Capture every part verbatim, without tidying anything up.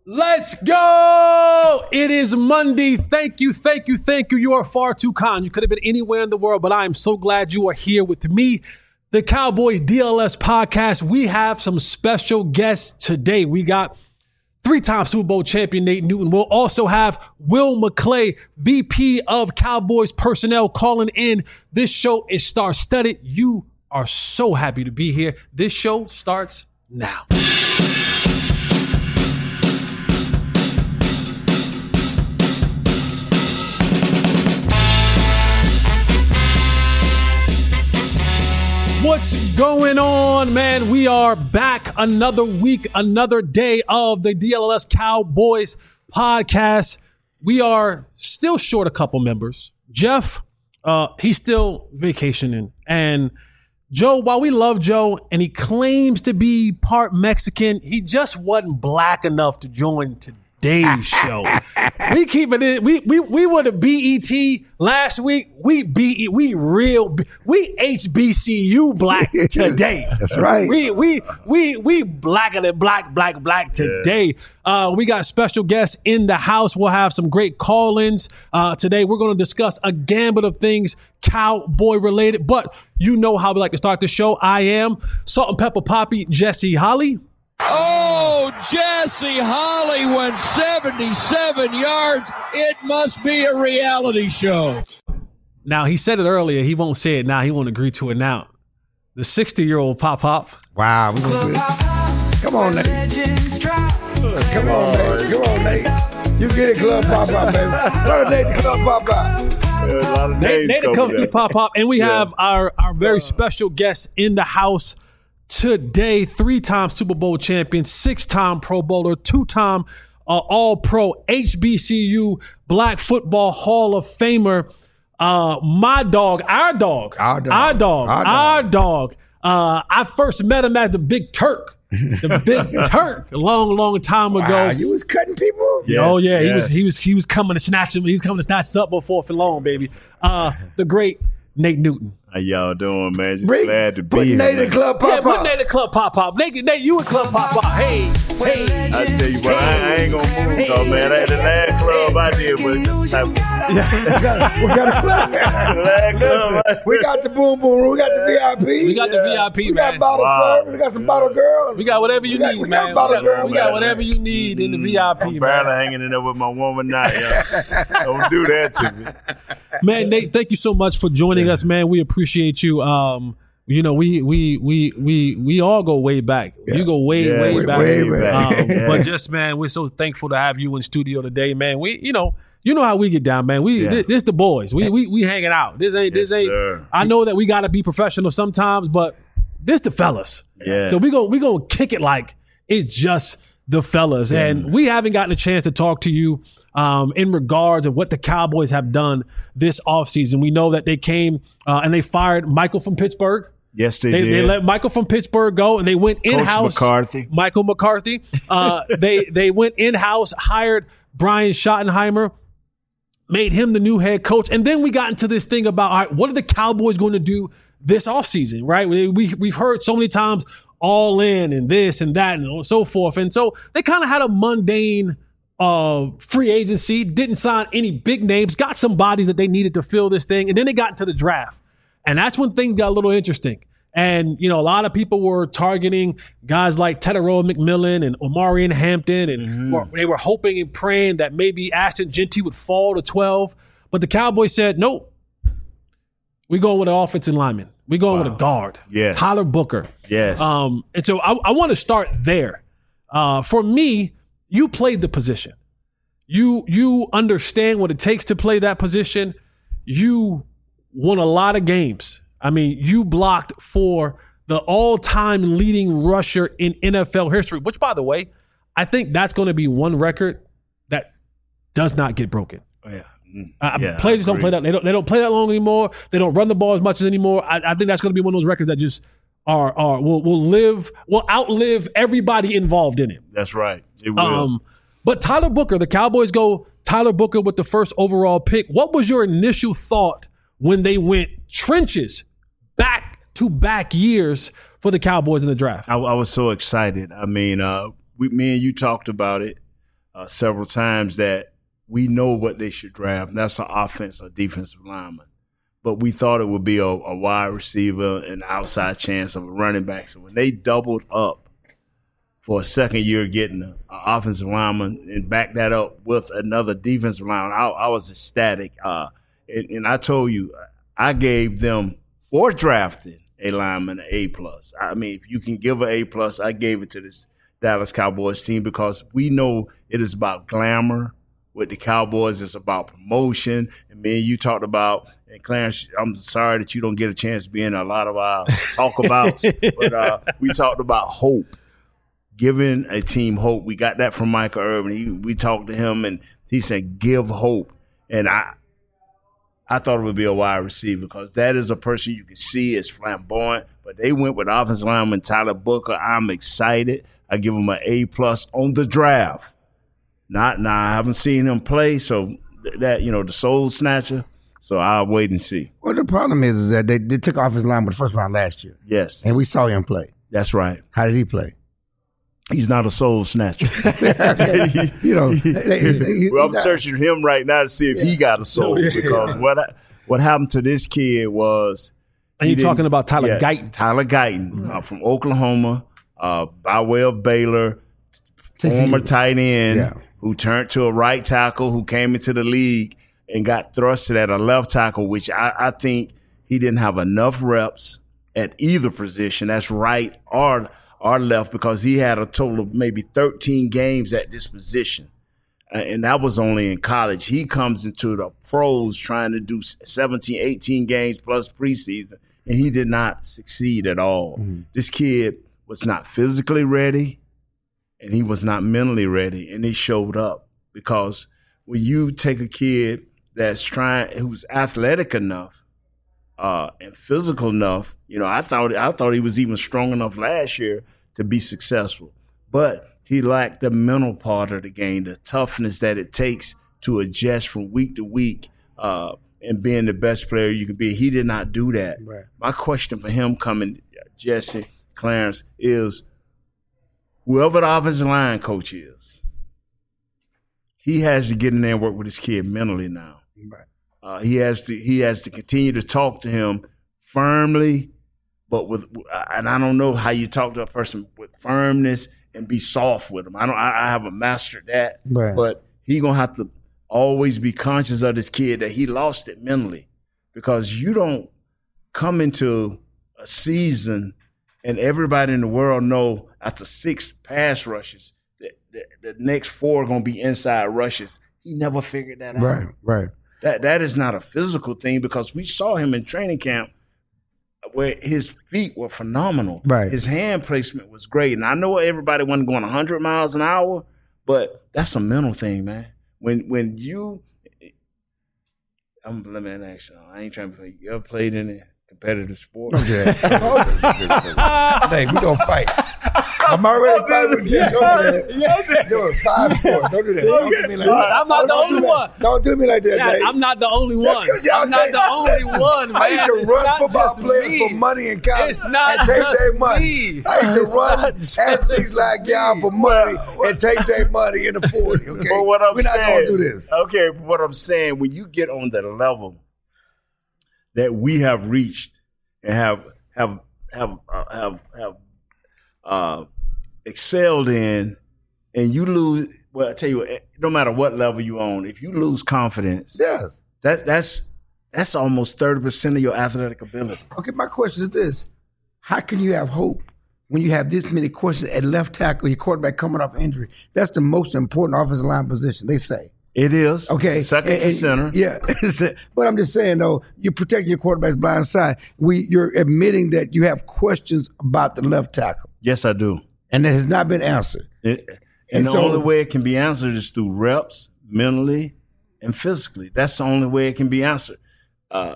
Let's go! It is Monday. Thank you, thank you, thank you. You are far too kind. You could have been anywhere in the world, but I am so glad you are here with me. The Cowboys D L S podcast. We have some special guests today. We got three-time Super Bowl champion Nate Newton. We'll also have Will McClay, V P of Cowboys personnel, calling in. This show is star-studded. You are so happy to be here. This show starts now. What's going on, man? We are back another week, another day of the D L S Cowboys podcast. We are still short a couple members. Jeff, uh, he's still vacationing. And Joe, while we love Joe and he claims to be part Mexican, he just wasn't black enough to join today's show. We keep it in. We we we were the B E T last week. We B we real we H B C U black today. That's right. We we we we blacker than black black black today. Yeah. Uh, we got special guests in the house. We'll have some great call-ins uh, today. We're going to discuss a gambit of things Cowboy related. But you know how we like to start the show. I am Salt and Pepper Poppy, Jesse Holly. Oh, Jesse Holly went seventy-seven yards. It must be a reality show. Now, he said it earlier. He won't say it now. He won't agree to it now. The sixty-year-old Pop Pop. Wow. We gonna do it. Come on, Nate. Come on, Nate. Come on, Nate. You get it, Club Pop Pop, baby. Brother Nate, the Club Pop Pop. Nate, Nate the Company Pop Pop. And we yeah. have our, our very special guest in the house today, three-time Super Bowl champion, six-time Pro Bowler, two-time uh, All-Pro, H B C U Black Football Hall of Famer, uh, my dog, our dog, our dog, our dog, our dog. Our dog. Uh, I first met him as the Big Turk, the Big Turk, a long, long time ago. Wow, you was cutting people? Yes, oh yeah, yes. he was, he was, he was coming to snatch him. He was coming to snatch us up on fourth and long, baby. Uh, the great Nate Newton. How y'all doing, man? Just Bring, glad to be put here. Nate in Club Pop yeah, Pop. put Nate in Club Pop Pop. Nate, Nate, you in Club Pop Pop. Hey, hey. I tell you what, I, I ain't gonna move, hey, though, man. That the last club I did was. we got, we got a club. last club. Listen, we got the boom boom room. We got the V I P. We got the V I P, we man. We got bottle wow. service. We got some bottle girls. We got whatever you we got, need, we man. Got bottle we got, girl, we got man. whatever you need in the V I P, I'm man. barely hanging in there with my woman now, y'all. Don't do that to me. Man, Nate, thank you so much for joining yeah. us, man. We appreciate you. Um, You know, we we we we we all go way back. Yeah. You go way yeah, way, way back. Way back. Um, yeah. But just man, we're so thankful to have you in studio today, man. We you know you know how we get down, man. We yeah. this, this the boys. We we we hanging out. This ain't yes, this ain't. Sir. I know that we got to be professional sometimes, but this the fellas. Yeah. So we go we gonna kick it like it's just the fellas, yeah. and we haven't gotten a chance to talk to you. Um, in regards of what the Cowboys have done this offseason. We know that they came uh, and they fired Michael from Pittsburgh. Yes, they, they did. They let Michael from Pittsburgh go, and they went in-house. Coach McCarthy. Michael McCarthy. Uh, they they went in-house, hired Brian Schottenheimer, made him the new head coach, and then we got into this thing about, all right, what are the Cowboys going to do this offseason, right? We, we, we've heard so many times all in and this and that and so forth, and so they kind of had a mundane Uh, free agency, didn't sign any big names, got some bodies that they needed to fill this thing, and then they got into the draft. And that's when things got a little interesting. And, you know, a lot of people were targeting guys like Teteroa McMillan and Omarion Hampton, and mm-hmm. were, they were hoping and praying that maybe Ashton Jeanty would fall to twelve. But the Cowboys said, nope, we're going with an offensive lineman. We're going wow. with a guard. Yeah. Tyler Booker. Yes. Um, and so I, I want to start there. Uh, for me, you played the position. You you understand what it takes to play that position. You won a lot of games. I mean, you blocked for the all-time leading rusher in N F L history, which, by the way, I think that's going to be one record that does not get broken. Oh, yeah. Mm, uh, yeah, players don't play that. They don't. They don't play that long anymore. They don't run the ball as much as anymore. I, I think that's going to be one of those records that just are are will will live will outlive everybody involved in it. That's right. It will. Um, but Tyler Booker, the Cowboys go Tyler Booker with the first overall pick. What was your initial thought when they went trenches back to back years for the Cowboys in the draft? I, I was so excited. I mean, uh, we, me and you talked about it. uh, several times that we know what they should draft. And that's an offense or defensive lineman. But we thought it would be a, a wide receiver, an outside chance of a running back. So when they doubled up for a second year getting an offensive lineman and backed that up with another defensive lineman, I, I was ecstatic. Uh, and, and I told you, I gave them, for drafting a lineman, an A plus. I mean, if you can give an A plus, I gave it to this Dallas Cowboys team because we know it is about glamour. With the Cowboys, it's about promotion. And me and you talked about, and Clarence, I'm sorry that you don't get a chance to be in a lot of our talk-abouts, but uh, we talked about hope, giving a team hope. We got that from Michael Irvin. He, we talked to him, and he said, give hope. And I I thought it would be a wide receiver because that is a person you can see is flamboyant. But they went with offensive lineman Tyler Booker. I'm excited. I give him an A-plus on the draft. Not now. I haven't seen him play, so that you know the soul snatcher. So I'll wait and see. Well, the problem is, is that they, they took off his line with the first round last year. Yes, and we saw him play. That's right. How did he play? He's not a soul snatcher. you know, they, they, well, I'm searching him right now to see if yeah. he got a soul because what I, what happened to this kid was. And you're talking about Tyler yeah, Guyton. Tyler Guyton mm-hmm. uh, from Oklahoma, uh, by way of Baylor, former tight end. Yeah. Who turned to a right tackle, who came into the league and got thrusted at a left tackle, which I, I think he didn't have enough reps at either position. That's right or, or left because he had a total of maybe thirteen games at this position. And that was only in college. He comes into the pros trying to do seventeen, eighteen games plus preseason, and he did not succeed at all. Mm-hmm. This kid was not physically ready. And he was not mentally ready, and he showed up because when you take a kid that's trying, who's athletic enough uh, and physical enough, you know, I thought I thought he was even strong enough last year to be successful, but he lacked the mental part of the game, the toughness that it takes to adjust from week to week uh, and being the best player you can be. He did not do that. Right. My question for him coming, Jesse, Clarence, is. Whoever the offensive line coach is, he has to get in there and work with his kid mentally now. Right. Uh, he has to he has to continue to talk to him firmly, but with and I don't know how you talk to a person with firmness and be soft with him. I don't. I, I haven't mastered that, right. But he gonna have to always be conscious of this kid that he lost it mentally, because you don't come into a season and everybody in the world know after six pass rushes, the, the, the next four are going to be inside rushes. He never figured that out. Right, right. That That is not a physical thing because we saw him in training camp where his feet were phenomenal. Right. His hand placement was great. And I know everybody wasn't going one hundred miles an hour, but that's a mental thing, man. When when you – I'm let me ask you, I ain't trying to play. You ever played in it? Competitive sport. Okay. Hey, we gonna fight. I'm already fighting with you. Don't do that. Do it. Five four. Don't do that. Don't do me like that. I'm not the only one. Don't do me like that, Jack, I'm not the only one. I'm not the only one, man. I used to run football players for money in college it's not and take just their money. Me. I used to it's run athletes like y'all for money and take their money in the forty. Okay, but what I'm we're not saying, gonna do this. Okay, but what I'm saying, when you get on the level that we have reached and have have have uh, have have uh, excelled in, and you lose. Well, I tell you, what, no matter what level you on, if you lose confidence, yes, that that's that's almost thirty percent of your athletic ability. Okay, my question is this: how can you have hope when you have this many questions at left tackle, your quarterback coming off injury? That's the most important offensive line position, they say. It is. Okay. It's second and, to center. And, yeah. But I'm just saying, though, you're protecting your quarterback's blind side. We, you're admitting that you have questions about the left tackle. Yes, I do. And it has not been answered. It, and, and the so, only way it can be answered is through reps, mentally and physically. That's the only way it can be answered. Uh,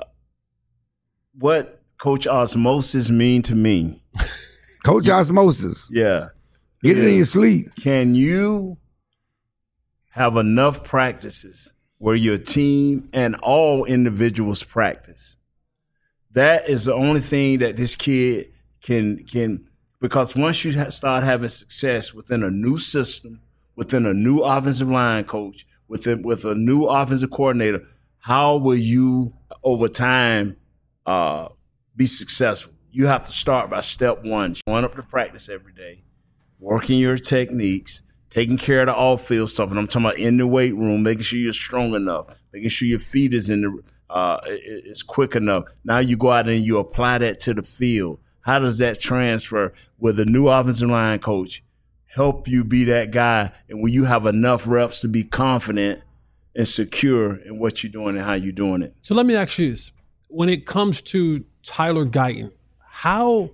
what Coach Osmosis mean to me? Coach Osmosis. Yeah. Get it in your sleep. Can you have enough practices where your team and all individuals practice? That is the only thing that this kid can can because once you start having success within a new system within a new offensive line coach, within with a new offensive coordinator, how will you over time uh, be successful? You have to start by step one, showing up to practice every day, working your techniques, taking care of the off-field stuff, and I'm talking about in the weight room, making sure you're strong enough, making sure your feet is in the uh, is quick enough. Now you go out and you apply that to the field. How does that transfer with a new offensive line coach? Help you be that guy, and when you have enough reps to be confident and secure in what you're doing and how you're doing it. So let me ask you this: when it comes to Tyler Guyton, how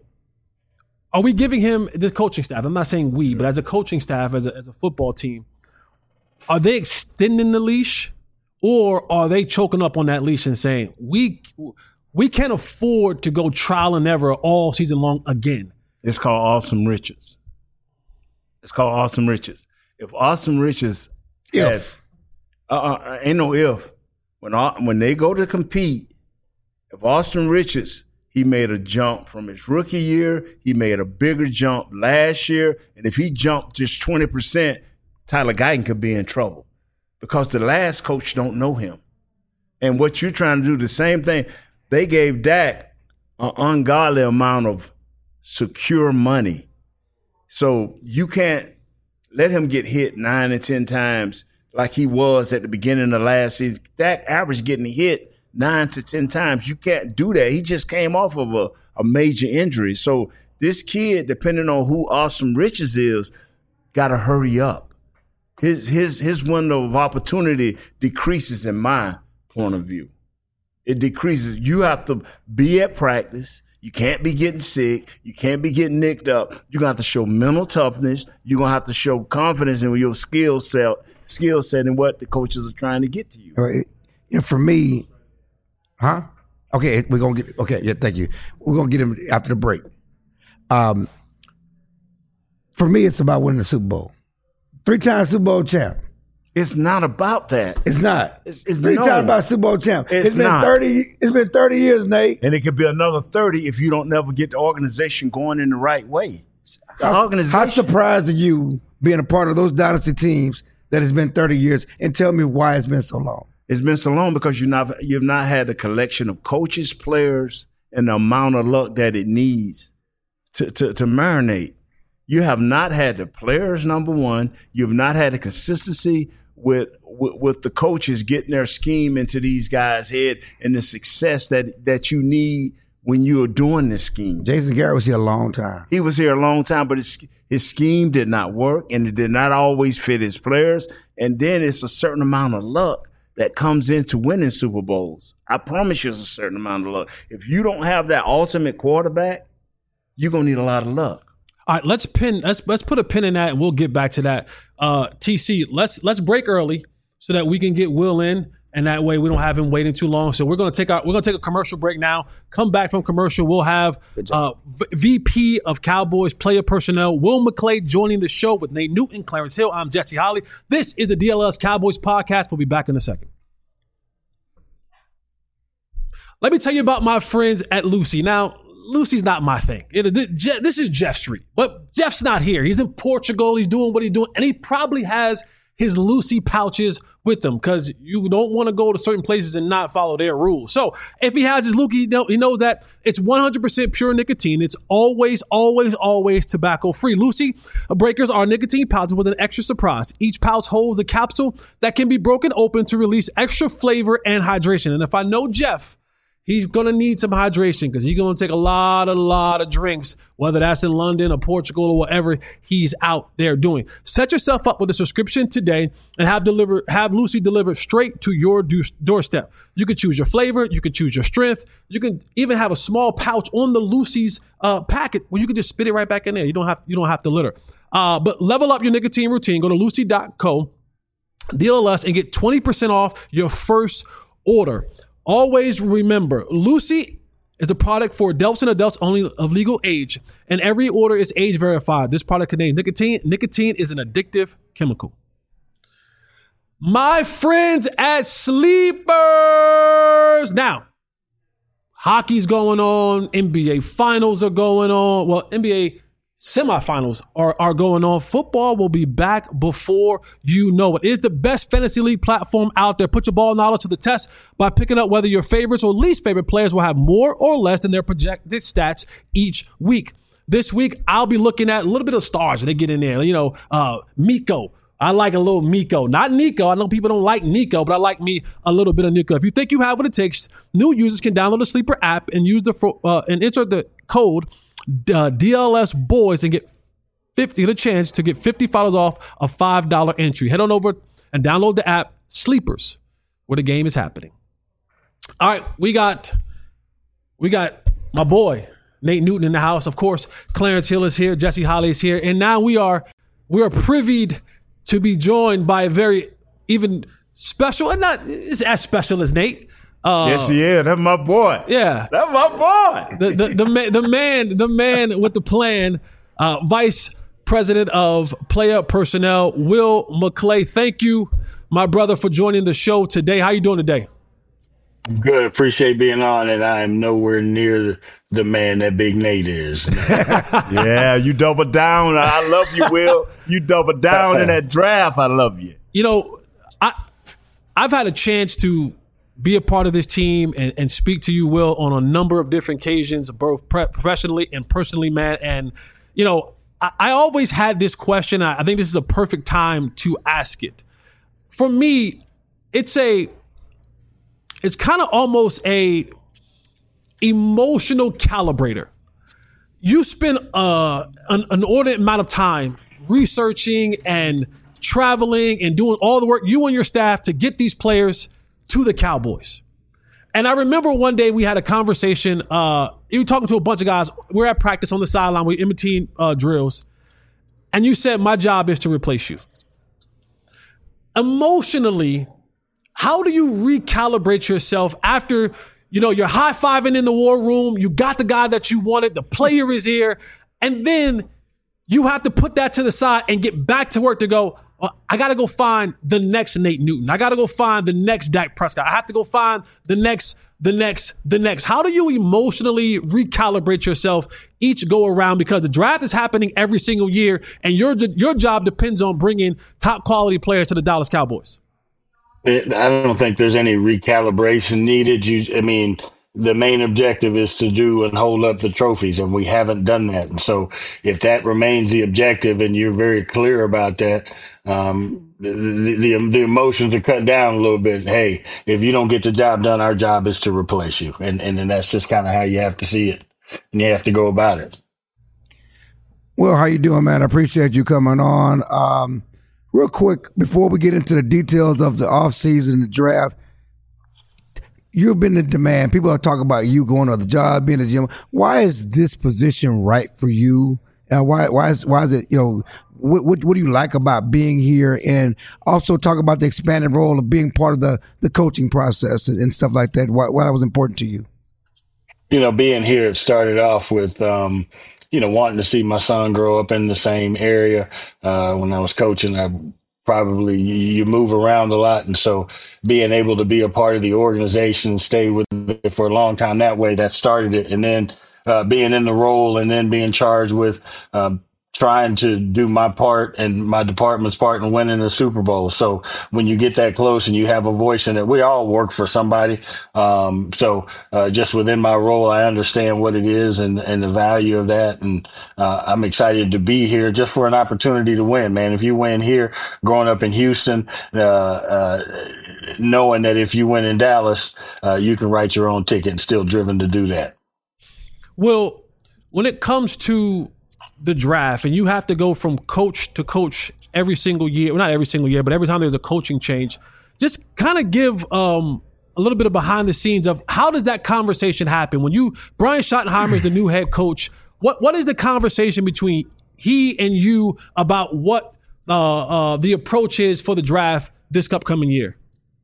are we giving him this coaching staff? I'm not saying we, but as a coaching staff, as a, as a football team, are they extending the leash, or are they choking up on that leash and saying we we can't afford to go trial and error all season long again? It's called awesome riches. It's called awesome riches. If awesome riches If. has, uh, uh, ain't no if. When when they go to compete, if Austin Richards, he made a jump from his rookie year, he made a bigger jump last year, and if he jumped just twenty percent, Tyler Guyton could be in trouble because the last coach don't know him. And what you're trying to do, the same thing, they gave Dak an ungodly amount of secure money. So you can't let him get hit nine and ten times like he was at the beginning of last season. Dak average getting hit nine to ten times. You can't do that. He just came off of a, a major injury. So this kid, depending on who Austin Richards is, got to hurry up. His his his window of opportunity decreases in my point of view. It decreases. You have to be at practice. You can't be getting sick. You can't be getting nicked up. You're going to have to show mental toughness. You're going to have to show confidence in your skill set, skill set and what the coaches are trying to get to you. Right. You know, for me, huh? Okay, we're going to get, okay, yeah, thank you. We're going to get him after the break. Um, for me, it's about winning the Super Bowl. Three-time Super Bowl champ. It's not about that. It's not. It's, it's Three no. times about Super Bowl champ. It's it's been not. thirty. It's been thirty years, Nate. And it could be another thirty if you don't never get the organization going in the right way. The How, organization. how surprised are you being a part of those dynasty teams that has been thirty years? And tell me why it's been so long. It's been so long because you've not you've not had a collection of coaches, players, and the amount of luck that it needs to to, to marinate. You have not had the players, number one. You've not had the consistency with, with with the coaches getting their scheme into these guys' head and the success that that you need when you are doing this scheme. Jason Garrett was here a long time. He was here a long time, but his his scheme did not work, and it did not always fit his players. And then it's a certain amount of luck that comes into winning Super Bowls. I promise you, it's a certain amount of luck. If you don't have that ultimate quarterback, you're gonna need a lot of luck. All right, let's pin. Let's let's put a pin in that, and we'll get back to that. Uh, T C, let's let's break early so that we can get Will in, and that way we don't have him waiting too long. So we're gonna take our we're gonna take a commercial break now. Come back from commercial, we'll have uh, V P of Cowboys player personnel Will McClay joining the show with Nate Newton, Clarence Hill. I'm Jesse Holly. This is the D L S Cowboys podcast. We'll be back in a second. Let me tell you about my friends at Lucy. Now, Lucy's not my thing. It, this is Jeff Street, but Jeff's not here. He's in Portugal. He's doing what he's doing, and he probably has his Lucy pouches with him because you don't want to go to certain places and not follow their rules. So if he has his Lucy, he, know, he knows that it's one hundred percent pure nicotine. It's always, always, always tobacco-free. Lucy breakers are nicotine pouches with an extra surprise. Each pouch holds a capsule that can be broken open to release extra flavor and hydration. And if I know Jeff, he's going to need some hydration because he's going to take a lot, a lot of drinks, whether that's in London or Portugal or whatever he's out there doing. Set yourself up with a subscription today and have deliver, have Lucy delivered straight to your do- doorstep. You can choose your flavor. You can choose your strength. You can even have a small pouch on the Lucy's uh, packet where you can just spit it right back in there. You don't have, you don't have to litter. Uh, but level up your nicotine routine. Go to lucy dot co, D L S, and get twenty percent off your first order. Always remember, Lucy is a product for adults and adults only of legal age, and every order is age verified. This product contains nicotine. Nicotine is an addictive chemical. My friends at Sleepers. Now, hockey's going on. N B A finals are going on. Well, N B A semifinals are, are going on. Football will be back before you know it. It is the best fantasy league platform out there. Put your ball knowledge to the test by picking up whether your favorites or least favorite players will have more or less than their projected stats each week. This week, I'll be looking at a little bit of stars when they get in there. You know, uh, Miko. I like a little Miko. Not Nico. I know people don't like Nico, but I like me a little bit of Nico. If you think you have what it takes, new users can download the Sleeper app and use the uh, and enter the code uh, D L S Boys and get fifty, get a chance to get fifty dollars off a five dollars entry. Head on over and download the app Sleepers, where the game is happening. All right, we got we got my boy Nate Newton in the house. Of course, Clarence Hill is here, Jesse Holley is here, and now we are we are privied to be joined by a very even special, and not it's as special as Nate. Uh, yes, he is. That's my boy. Yeah, that's my boy. The the the, man, the man the man with the plan, uh, Vice President of Player Personnel, Will McClay. Thank you, my brother, for joining the show today. How you doing today? I'm good. Appreciate being on, and I am nowhere near the man that Big Nate is. Yeah, you double down. I love you, Will. You double down in that draft. I love you. You know, I I've had a chance to be a part of this team and, and speak to you, Will, on a number of different occasions, both pre- professionally and personally, man. And you know, I, I always had this question. I, I think this is a perfect time to ask it. For me, it's a It's kind of almost a emotional calibrator. You spend uh, an, an inordinate amount of time researching and traveling and doing all the work, you and your staff, to get these players to the Cowboys. And I remember one day we had a conversation. Uh, you were talking to a bunch of guys. We're at practice on the sideline. We're in between uh, drills. And you said, my job is to replace you. Emotionally, how do you recalibrate yourself after, you know, you're high-fiving in the war room, you got the guy that you wanted, the player is here, and then you have to put that to the side and get back to work to go, well, I got to go find the next Nate Newton. I got to go find the next Dak Prescott. I have to go find the next, the next, the next. How do you emotionally recalibrate yourself each go around? Because the draft is happening every single year, and your your job depends on bringing top-quality players to the Dallas Cowboys. It, I don't think there's any recalibration needed. You, I mean, the main objective is to do and hold up the trophies, and we haven't done that. And so if that remains the objective and you're very clear about that, um, the, the, the emotions are cut down a little bit. Hey, if you don't get the job done, our job is to replace you. And, and, and that's just kind of how you have to see it, and you have to go about it. Well, how you doing, man? I appreciate you coming on. Um, Real quick, before we get into the details of the offseason and the draft, you've been in demand. People are talking about you going to the job, being a gym. Why is this position right for you? Uh, why why is why is it, you know, what, what what do you like about being here? And also talk about the expanded role of being part of the, the coaching process and, and stuff like that. Why, why that was important to you? You know, being here, it started off with um, – you know, wanting to see my son grow up in the same area. Uh, when I was coaching, I probably, you, you move around a lot. And so being able to be a part of the organization and stay with it for a long time that way, that started it. And then uh, being in the role and then being charged with uh, trying to do my part and my department's part in winning the Super Bowl. So when you get that close and you have a voice in it, we all work for somebody. Um, so uh, just within my role, I understand what it is and, and the value of that. And uh, I'm excited to be here just for an opportunity to win, man. If you win here, growing up in Houston, uh, uh, knowing that if you win in Dallas, uh, you can write your own ticket and still driven to do that. Well, when it comes to the draft, and you have to go from coach to coach every single year, well, not every single year, but every time there's a coaching change, just kind of give um, a little bit of behind the scenes of how does that conversation happen? When you, Brian Schottenheimer is the new head coach, what what is the conversation between he and you about what uh, uh, the approach is for the draft this upcoming year?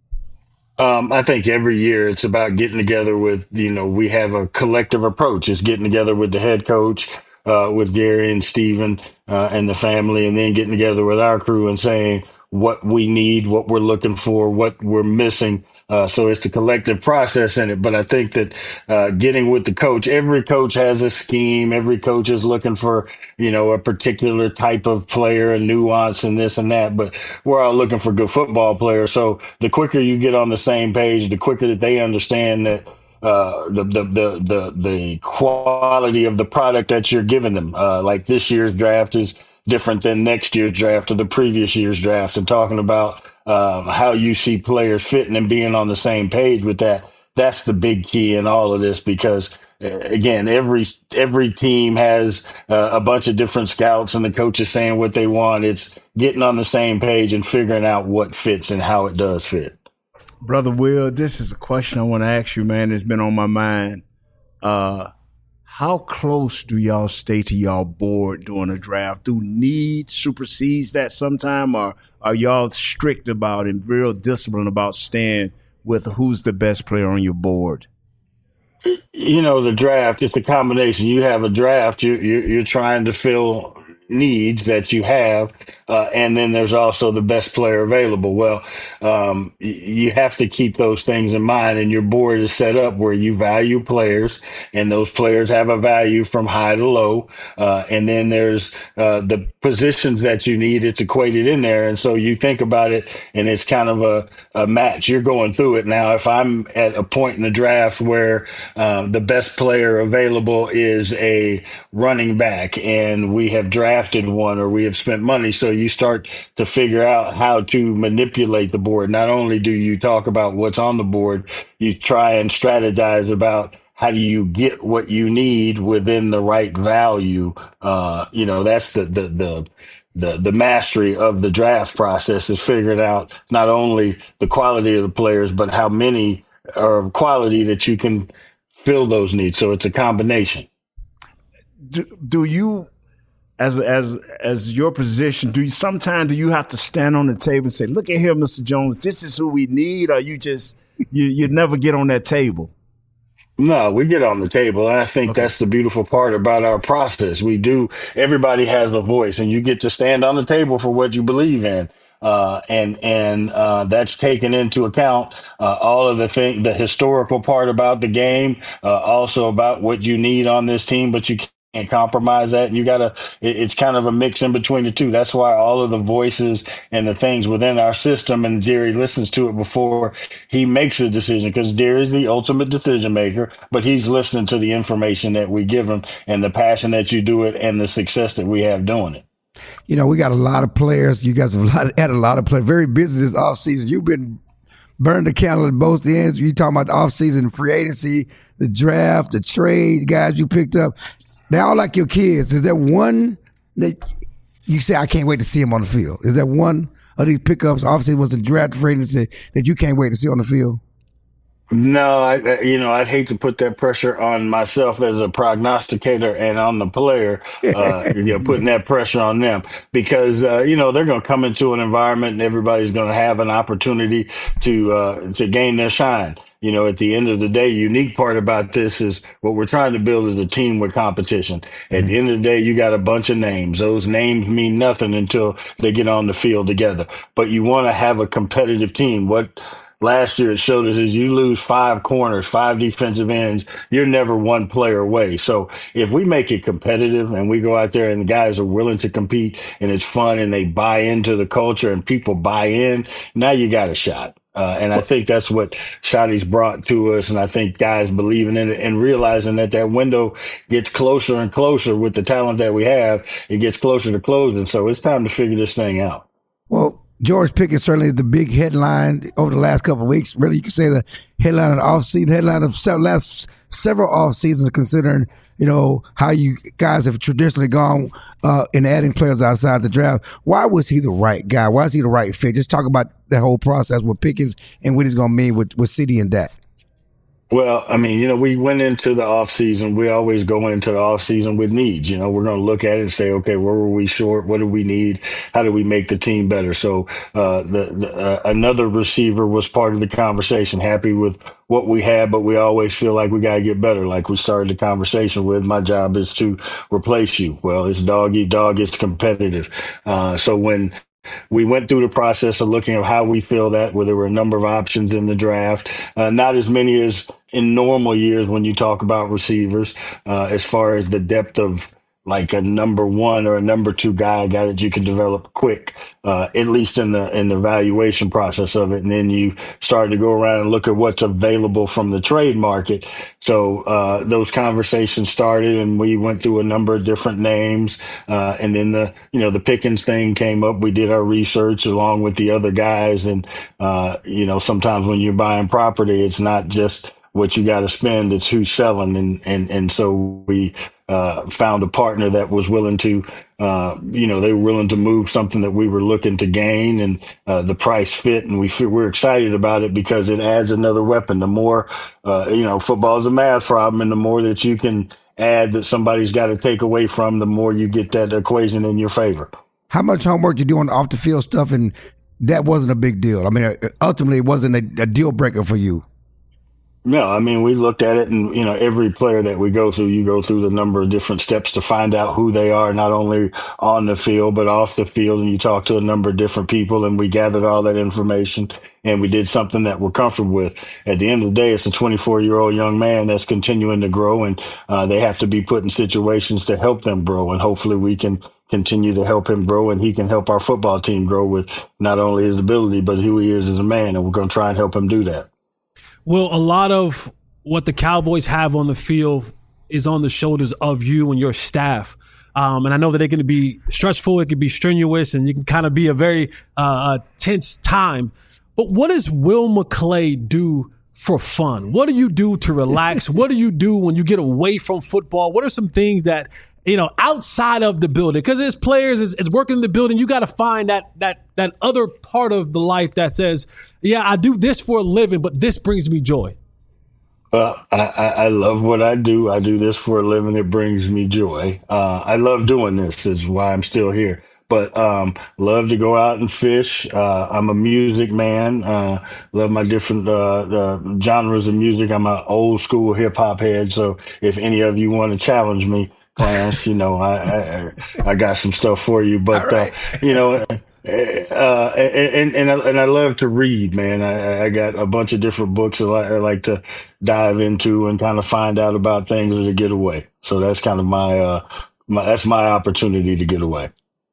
Um, I think every year it's about getting together with, you know, we have a collective approach. It's getting together with the head coach, Uh, with Gary and Steven uh, and the family, and then getting together with our crew and saying what we need, what we're looking for, what we're missing Uh, so it's the collective process in it. But I think that uh, getting with the coach, every coach has a scheme. Every coach is looking for, you know, a particular type of player, a nuance and this and that. But we're all looking for good football players. So the quicker you get on the same page, the quicker that they understand that uh, the, the, the, the, the quality of the product that you're giving them. Uh, like this year's draft is different than next year's draft or the previous year's draft, and talking about um, how you see players fitting and being on the same page with that. That's the big key in all of this, because uh, again, every every team has uh, a bunch of different scouts and the coaches saying what they want. It's getting on the same page and figuring out what fits and how it does fit. Brother Will, this is a question I want to ask you, man. It's been on my mind. Uh, how close do y'all stay to y'all board during a draft? Do need supersedes that sometime, or are y'all strict about and real disciplined about staying with who's the best player on your board? You know, the draft, it's a combination. You have a draft, you, you, you're trying to fill needs that you have, uh, and then there's also the best player available. Well, um, y- you have to keep those things in mind, and your board is set up where you value players, and those players have a value from high to low, uh, and then there's uh, the positions that you need. It's equated in there, and so you think about it, and it's kind of a, a match. You're going through it. Now, if I'm at a point in the draft where um, the best player available is a running back, and we have drafted one, or we have spent money. So you start to figure out how to manipulate the board. Not only do you talk about what's on the board, you try and strategize about how do you get what you need within the right value. Uh, you know, that's the, the, the, the, the mastery of the draft process, is figuring out not only the quality of the players, but how many are quality that you can fill those needs. So it's a combination. Do, do you, As as as your position, do you sometimes do you have to stand on the table and say, "Look at here, Mister Jones, this is who we need," or you just you you never get on that table? No, we get on the table. And I think okay. That's the beautiful part about our process. We do, everybody has a voice, and you get to stand on the table for what you believe in. Uh, and, and, uh, that's taken into account, uh, all of the thing, the historical part about the game, uh, also about what you need on this team, but you can't compromise that. And you gotta, it, it's kind of a mix in between the two. That's why all of the voices and the things within our system, and Jerry listens to it before he makes a decision, because Jerry is the ultimate decision maker, but he's listening to the information that we give him and the passion that you do it and the success that we have doing it. You know, we got a lot of players. You guys have a lot, had a lot of players. Very busy this offseason. You've been burning the candle at both ends. You talking about the offseason, free agency, the draft, the trade, guys you picked up. They're all like your kids. Is there one that you say, I can't wait to see him on the field? Is there one of these pickups, obviously it was a draft free agency, that you can't wait to see on the field? No, I, you know, I'd hate to put that pressure on myself as a prognosticator and on the player, uh, you know, putting that pressure on them, because, uh, you know, they're going to come into an environment and everybody's going to have an opportunity to, uh, to gain their shine. You know, at the end of the day, unique part about this is what we're trying to build is a team with competition. At the end of the day, you got a bunch of names. Those names mean nothing until they get on the field together. But you want to have a competitive team. What last year it showed us is you lose five corners, five defensive ends, you're never one player away. So if we make it competitive and we go out there and the guys are willing to compete and it's fun and they buy into the culture and people buy in, now you got a shot. Uh, and I think that's what Shotty's brought to us. And I think guys believing in it and realizing that that window gets closer and closer with the talent that we have. It gets closer to closing. So it's time to figure this thing out. Well, George Pickens certainly is the big headline over the last couple of weeks. Really, you could say the headline of the offseason, headline of the last several off seasons, considering, you know, how you guys have traditionally gone uh, in adding players outside the draft. Why was he the right guy? Why is he the right fit? Just talk about the whole process with Pickens and what he's going to mean with, with City and Dak. Well, I mean, you know, we went into the offseason. We always go into the offseason with needs. You know, we're going to look at it and say, okay, where were we short? What do we need? How do we make the team better? So uh, the, the uh, another receiver was part of the conversation. Happy with what we had, but we always feel like we got to get better. Like we started the conversation with, my job is to replace you. Well, it's dog eat dog. It's competitive. Uh, so when we went through the process of looking at how we feel that, where there were a number of options in the draft, uh, not as many as in normal years when you talk about receivers, uh, as far as the depth of like a number one or a number two guy, a guy that you can develop quick, uh, at least in the in the evaluation process of it. And then you start to go around and look at what's available from the trade market. So uh, those conversations started, and we went through a number of different names. Uh, and then the you know the Pickens thing came up. We did our research along with the other guys, and uh, you know sometimes when you're buying property, it's not just what you got to spend, it's who's selling, and and and so we uh, found a partner that was willing to, uh, you know, they were willing to move something that we were looking to gain, and uh, the price fit, and we feel, we're excited about it because it adds another weapon. The more, uh, you know, football is a math problem, and the more that you can add that somebody's got to take away from, the more you get that equation in your favor. How much homework you do on the off the field stuff, and that wasn't a big deal? I mean, ultimately, it wasn't a, a deal breaker for you. No, I mean, we looked at it, and, you know, every player that we go through, you go through the number of different steps to find out who they are, not only on the field, but off the field. And you talk to a number of different people, and we gathered all that information, and we did something that we're comfortable with. At the end of the day, it's a twenty-four year old young man that's continuing to grow, and uh, they have to be put in situations to help them grow. And hopefully we can continue to help him grow, and he can help our football team grow with not only his ability, but who he is as a man. And we're going to try and help him do that. Well, a lot of what the Cowboys have on the field is on the shoulders of you and your staff. Um, and I know that it can be stressful, it can be strenuous, and you can kind of be a very uh, tense time. But what does Will McClay do for fun? What do you do to relax? What do you do when you get away from football? What are some things that, you know, outside of the building? Because as players, it's, it's working in the building. You got to find that that that other part of the life that says, yeah, I do this for a living, but this brings me joy. Well, I, I, I love what I do. I do this for a living. It brings me joy. Uh, I love doing this. Is why I'm still here. But um, love to go out and fish. Uh, I'm a music man. Uh, love my different uh, uh, genres of music. I'm an old school hip hop head. So if any of you want to challenge me, Clarence, you know, I, I I got some stuff for you. But right. uh, you know. Uh, and, and, I, and I love to read, man. I, I got a bunch of different books that I like to dive into and kind of find out about things or to get away. So that's kind of my, uh, my, that's my opportunity to get away.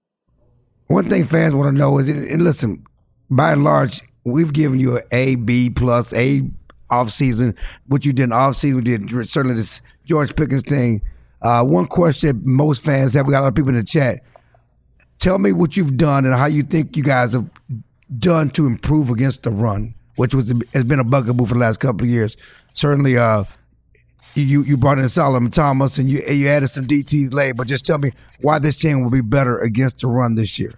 One thing fans want to know is, and listen, by and large, we've given you an A, B plus, A off season. What you did in off season, we did certainly this George Pickens thing. Uh, one question most fans have, we got a lot of people in the chat. Tell me what you've done and how you think you guys have done to improve against the run, which was has been a bugaboo for the last couple of years. Certainly, uh, you you brought in Solomon Thomas and you you added some D Ts late, but just tell me why this team will be better against the run this year.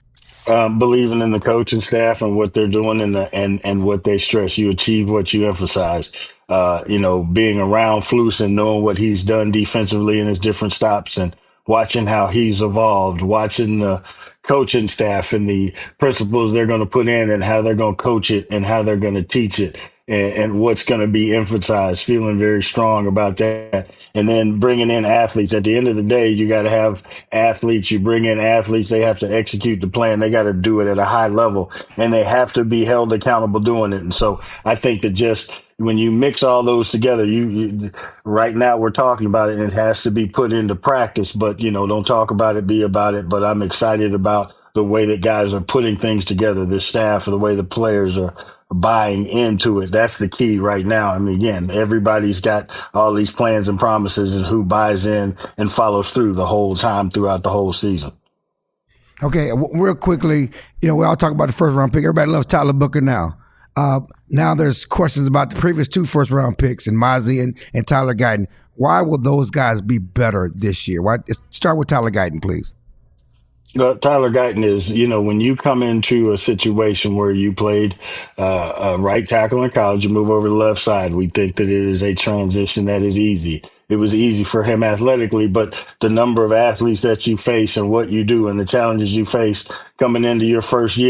Um, believing in the coaching staff and what they're doing and the and and what they stress. You achieve what you emphasize. Uh, you know, being around Flus and knowing what he's done defensively in his different stops and watching how he's evolved, watching the coaching staff and the principles they're going to put in and how they're going to coach it and how they're going to teach it and, and what's going to be emphasized, feeling very strong about that. And then bringing in athletes. At the end of the day, you got to have athletes. You bring in athletes. They have to execute the plan. They got to do it at a high level and they have to be held accountable doing it. And so I think that just when you mix all those together, you, you right now we're talking about it and it has to be put into practice, but you know, don't talk about it, be about it. But I'm excited about the way that guys are putting things together, the staff, the way the players are buying into it. That's the key right now. I mean, again, everybody's got all these plans and promises and who buys in and follows through the whole time throughout the whole season. Okay. W- real quickly, you know, we all talk about the first round pick. Everybody loves Tyler Booker now. Uh, now there's questions about the previous two first round picks and Mozzie and, and Tyler Guyton. Why will those guys be better this year? Why, start with Tyler Guyton, please. Uh, Tyler Guyton is, you know, when you come into a situation where you played uh, a right tackle in college, you move over to the left side. We think that it is a transition that is easy. It was easy for him athletically, but the number of athletes that you face and what you do and the challenges you face coming into your first year,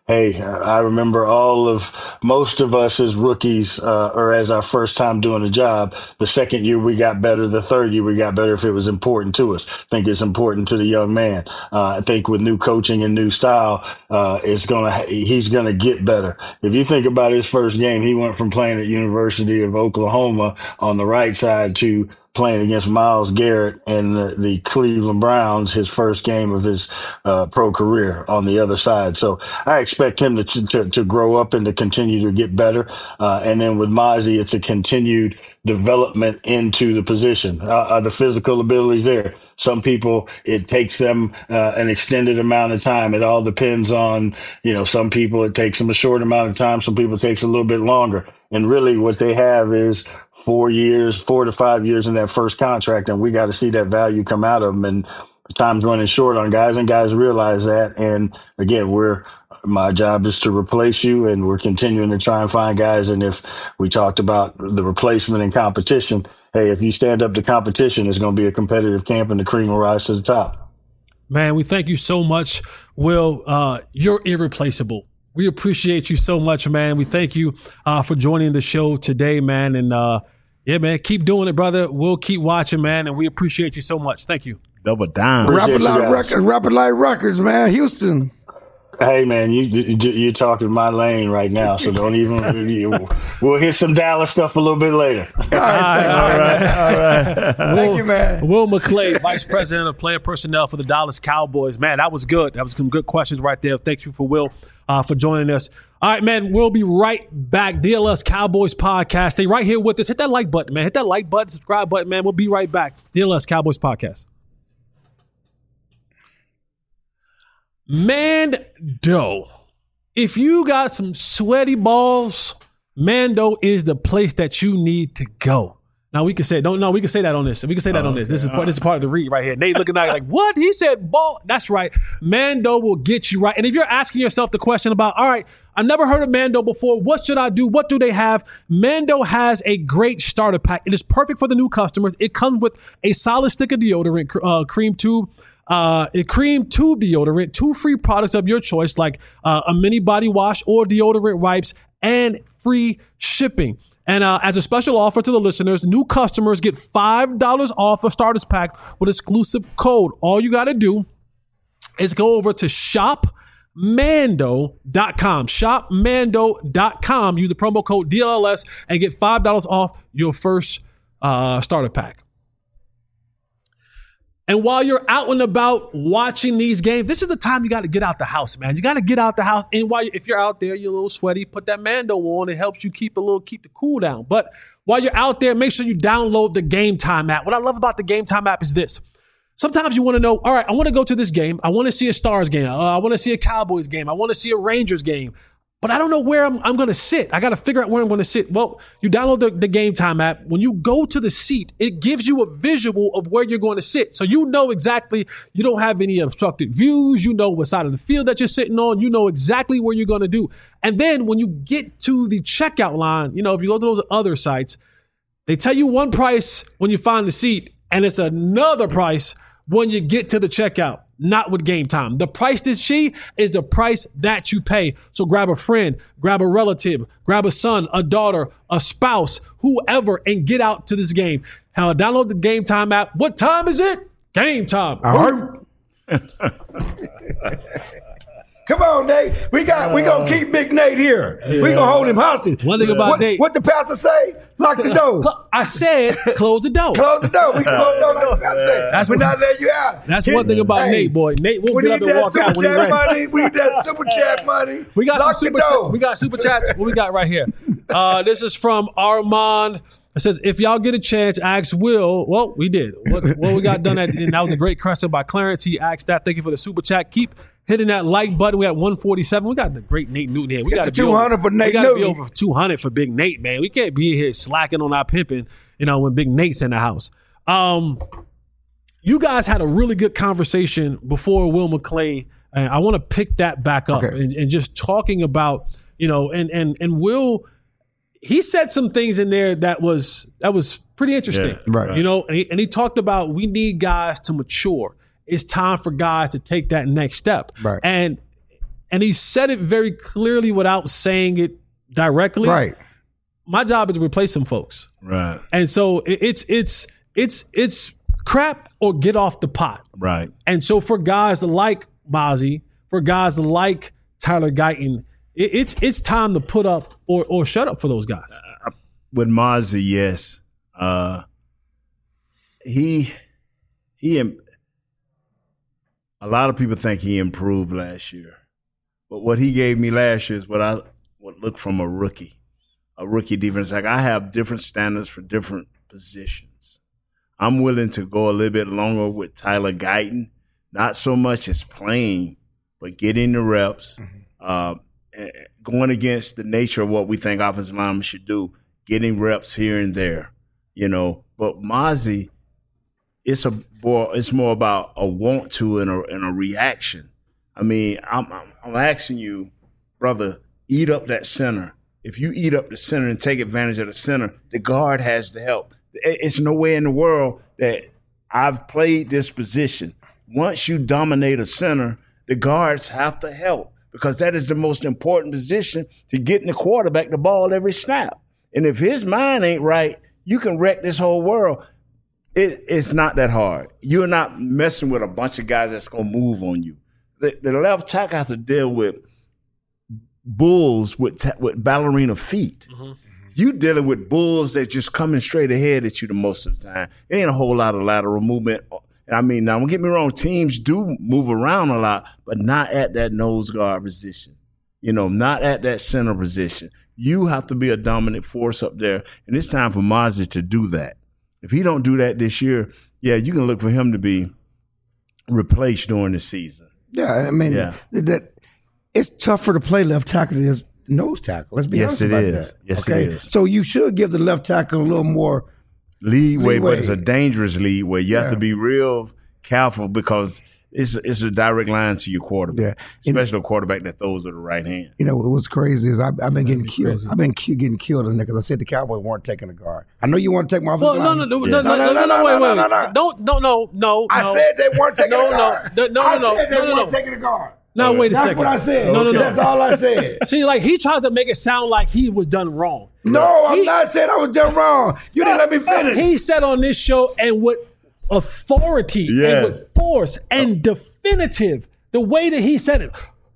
hey, I remember all of most of us as rookies uh, or as our first time doing a job. The second year we got better. The third year we got better if it was important to us. I think it's important to the young man. Uh, I think with new coaching and new style, uh, it's gonna he's gonna get better. If you think about his first game, he went from playing at University of Oklahoma on the right side to playing against Myles Garrett and the, the Cleveland Browns, his first game of his uh, pro career on the other side. So I expect him to to, to grow up and to continue to get better. Uh, and then with Mazi, it's a continued development into the position. Uh, uh, the physical abilities there. Some people, it takes them uh, an extended amount of time. It all depends on, you know, some people it takes them a short amount of time. Some people it takes a little bit longer. And really what they have is four years, four to five years in that first contract. And we got to see that value come out of them. And time's running short on guys, and guys realize that. And again, we're, my job is to replace you, and we're continuing to try and find guys. And if we talked about the replacement and competition, hey, if you stand up to competition, it's going to be a competitive camp and the cream will rise to the top. Man, we thank you so much, Will. Uh, you're irreplaceable. We appreciate you so much, man. We thank you uh, for joining the show today, man. And uh, yeah, man, keep doing it, brother. We'll keep watching, man. And we appreciate you so much. Thank you. Double down. Rapid Light Records, Rapid Light Records, man. Houston. Hey, man, you, you, you're talking my lane right now, so don't even – we'll hit some Dallas stuff a little bit later. All right. All right. All right. Thank Will, you, man. Will McClay, Vice President of Player Personnel for the Dallas Cowboys. Man, that was good. That was some good questions right there. Thank you for Will uh, for joining us. All right, man, we'll be right back. D L S Cowboys Podcast. Stay right here with us. Hit that like button, man. Hit that like button, subscribe button, man. We'll be right back. D L S Cowboys Podcast. Mando. If you got some sweaty balls, Mando is the place that you need to go. Now we can say, don't no, we can say that on this. We can say that oh, on this. This yeah. is part, this is part of the read right here. Nate looking at it like, what? He said ball. That's right. Mando will get you right. And if you're asking yourself the question about, all right, I've never heard of Mando before. What should I do? What do they have? Mando has a great starter pack. It is perfect for the new customers. It comes with a solid stick of deodorant, uh, cream tube, Uh, a cream tube deodorant, two free products of your choice, like uh, a mini body wash or deodorant wipes, and free shipping. And uh, as a special offer to the listeners, new customers get five dollars off a starters pack with exclusive code. All you got to do is go over to shop mando dot com. shop mando dot com. Use the promo code D L L S and get five dollars off your first uh, starter pack. And while you're out and about watching these games, this is the time you got to get out the house, man. You got to get out the house. And while you, if you're out there, you're a little sweaty, put that Mando on. It helps you keep a little, keep the cool down. But while you're out there, make sure you download the Game Time app. What I love about the Game Time app is this. Sometimes you want to know, all right, I want to go to this game. I want to see a Stars game. Uh, I want to see a Cowboys game. I want to see a Rangers game. But I don't know where I'm, I'm going to sit. I got to figure out where I'm going to sit. Well, you download the, the Game Time app. When you go to the seat, it gives you a visual of where you're going to sit. So you know exactly, you don't have any obstructed views. You know what side of the field that you're sitting on. You know exactly where you're going to do. And then when you get to the checkout line, you know, if you go to those other sites, they tell you one price when you find the seat, and it's another price when you get to the checkout. Not with Game Time. The price this she is the price that you pay. So grab a friend, grab a relative, grab a son, a daughter, a spouse, whoever, and get out to this game. How download the Game Time app. What time is it? Game time. All right. Come on, Nate. We got. We gonna keep Big Nate here. Yeah. We gonna hold him hostage. One thing about what, Nate. What the pastor say? Lock the door. I said close the door. Close the door. We close the door. Like the pastor say. That's We're what- not letting you out. That's Here- one thing about hey, Nate, boy. Nate will We get up need and that walk super out when he's chat ready. money. We need that super chat money. We got Lock some super the door. chats. We got super chats. What we got right here? Uh, this is from Armand. It says, if y'all get a chance, ask Will. Well, we did. What, what we got done at, and that was a great question by Clarence. He asked that. Thank you for the super chat. Keep hitting that like button. We got one forty-seven. We got the great Nate Newton here. We Get got to to be two hundred over, for Nate We got to be Newton. over two hundred for Big Nate, man. We can't be here slacking on our pimping, you know, when Big Nate's in the house. Um, you guys had a really good conversation before Will McClay, and I want to pick that back up Okay. and, and just talking about, you know, and and and Will, he said some things in there that was that was pretty interesting, Yeah, right. You know, and he, and he talked about we need guys to mature. It's time for guys to take that next step, Right. And and he said it very clearly without saying it directly. Right. My job is to replace some folks. Right. And so it, it's it's it's it's crap or get off the pot. Right. And so for guys like Mozzie, for guys like Tyler Guyton, it, it's it's time to put up or or shut up for those guys. Uh, with Mozzie, yes. Uh, he he. A lot of people think he improved last year, but what he gave me last year is what I would look from a rookie, a rookie defense. Like I have different standards for different positions. I'm willing to go a little bit longer with Tyler Guyton, not so much as playing, but getting the reps, mm-hmm. uh, going against the nature of what we think offensive linemen should do, getting reps here and there, you know. But Mozzie, it's a more, it's more about a want to and a, and a reaction. I mean, I'm, I'm I'm asking you, brother, eat up that center. If you eat up the center and take advantage of the center, the guard has to help. It's no way in the world that I've played this position. Once you dominate a center, the guards have to help because that is the most important position to getting the quarterback the ball every snap. And if his mind ain't right, you can wreck this whole world. It, it's not that hard. You're not messing with a bunch of guys that's going to move on you. The, the left tackle has to deal with bulls with ta- with ballerina feet. Mm-hmm. You dealing with bulls that's just coming straight ahead at you the most of the time. It ain't a whole lot of lateral movement. I mean, now don't get me wrong, teams do move around a lot, but not at that nose guard position. You know, not at that center position. You have to be a dominant force up there, and it's time for Mozzie to do that. If he don't do that this year, yeah, you can look for him to be replaced during the season. Yeah, I mean, yeah. that it's tougher to play left tackle than nose tackle. Let's be yes, honest about is. that. Yes, okay? it is. So you should give the left tackle a little more leeway, leeway. But it's a dangerous leeway. You yeah. have to be real careful because it's it's a direct line to your quarterback, yeah. especially a quarterback that throws with the right hand. You know, what's crazy is I've, I've been getting killed. Crazy. I've been ki- getting killed in there because I said the Cowboys weren't taking the guard. I know you want to take my offensive well, line. No, no, no, yeah. no, no, no, no, no, wait, wait, wait. Don't, no, no, no. I said they weren't taking no, the guard. No, no, no, I no, said they no, no, weren't no. taking the guard. No, wait a That's second. That's what I said. No, no, no. That's all I said. See, like he tried to make it sound like he was done wrong. No, he, I'm not saying I was done wrong. You didn't let me finish. He said on this show, and with authority, yes. and with force, and definitive, the way that he said it.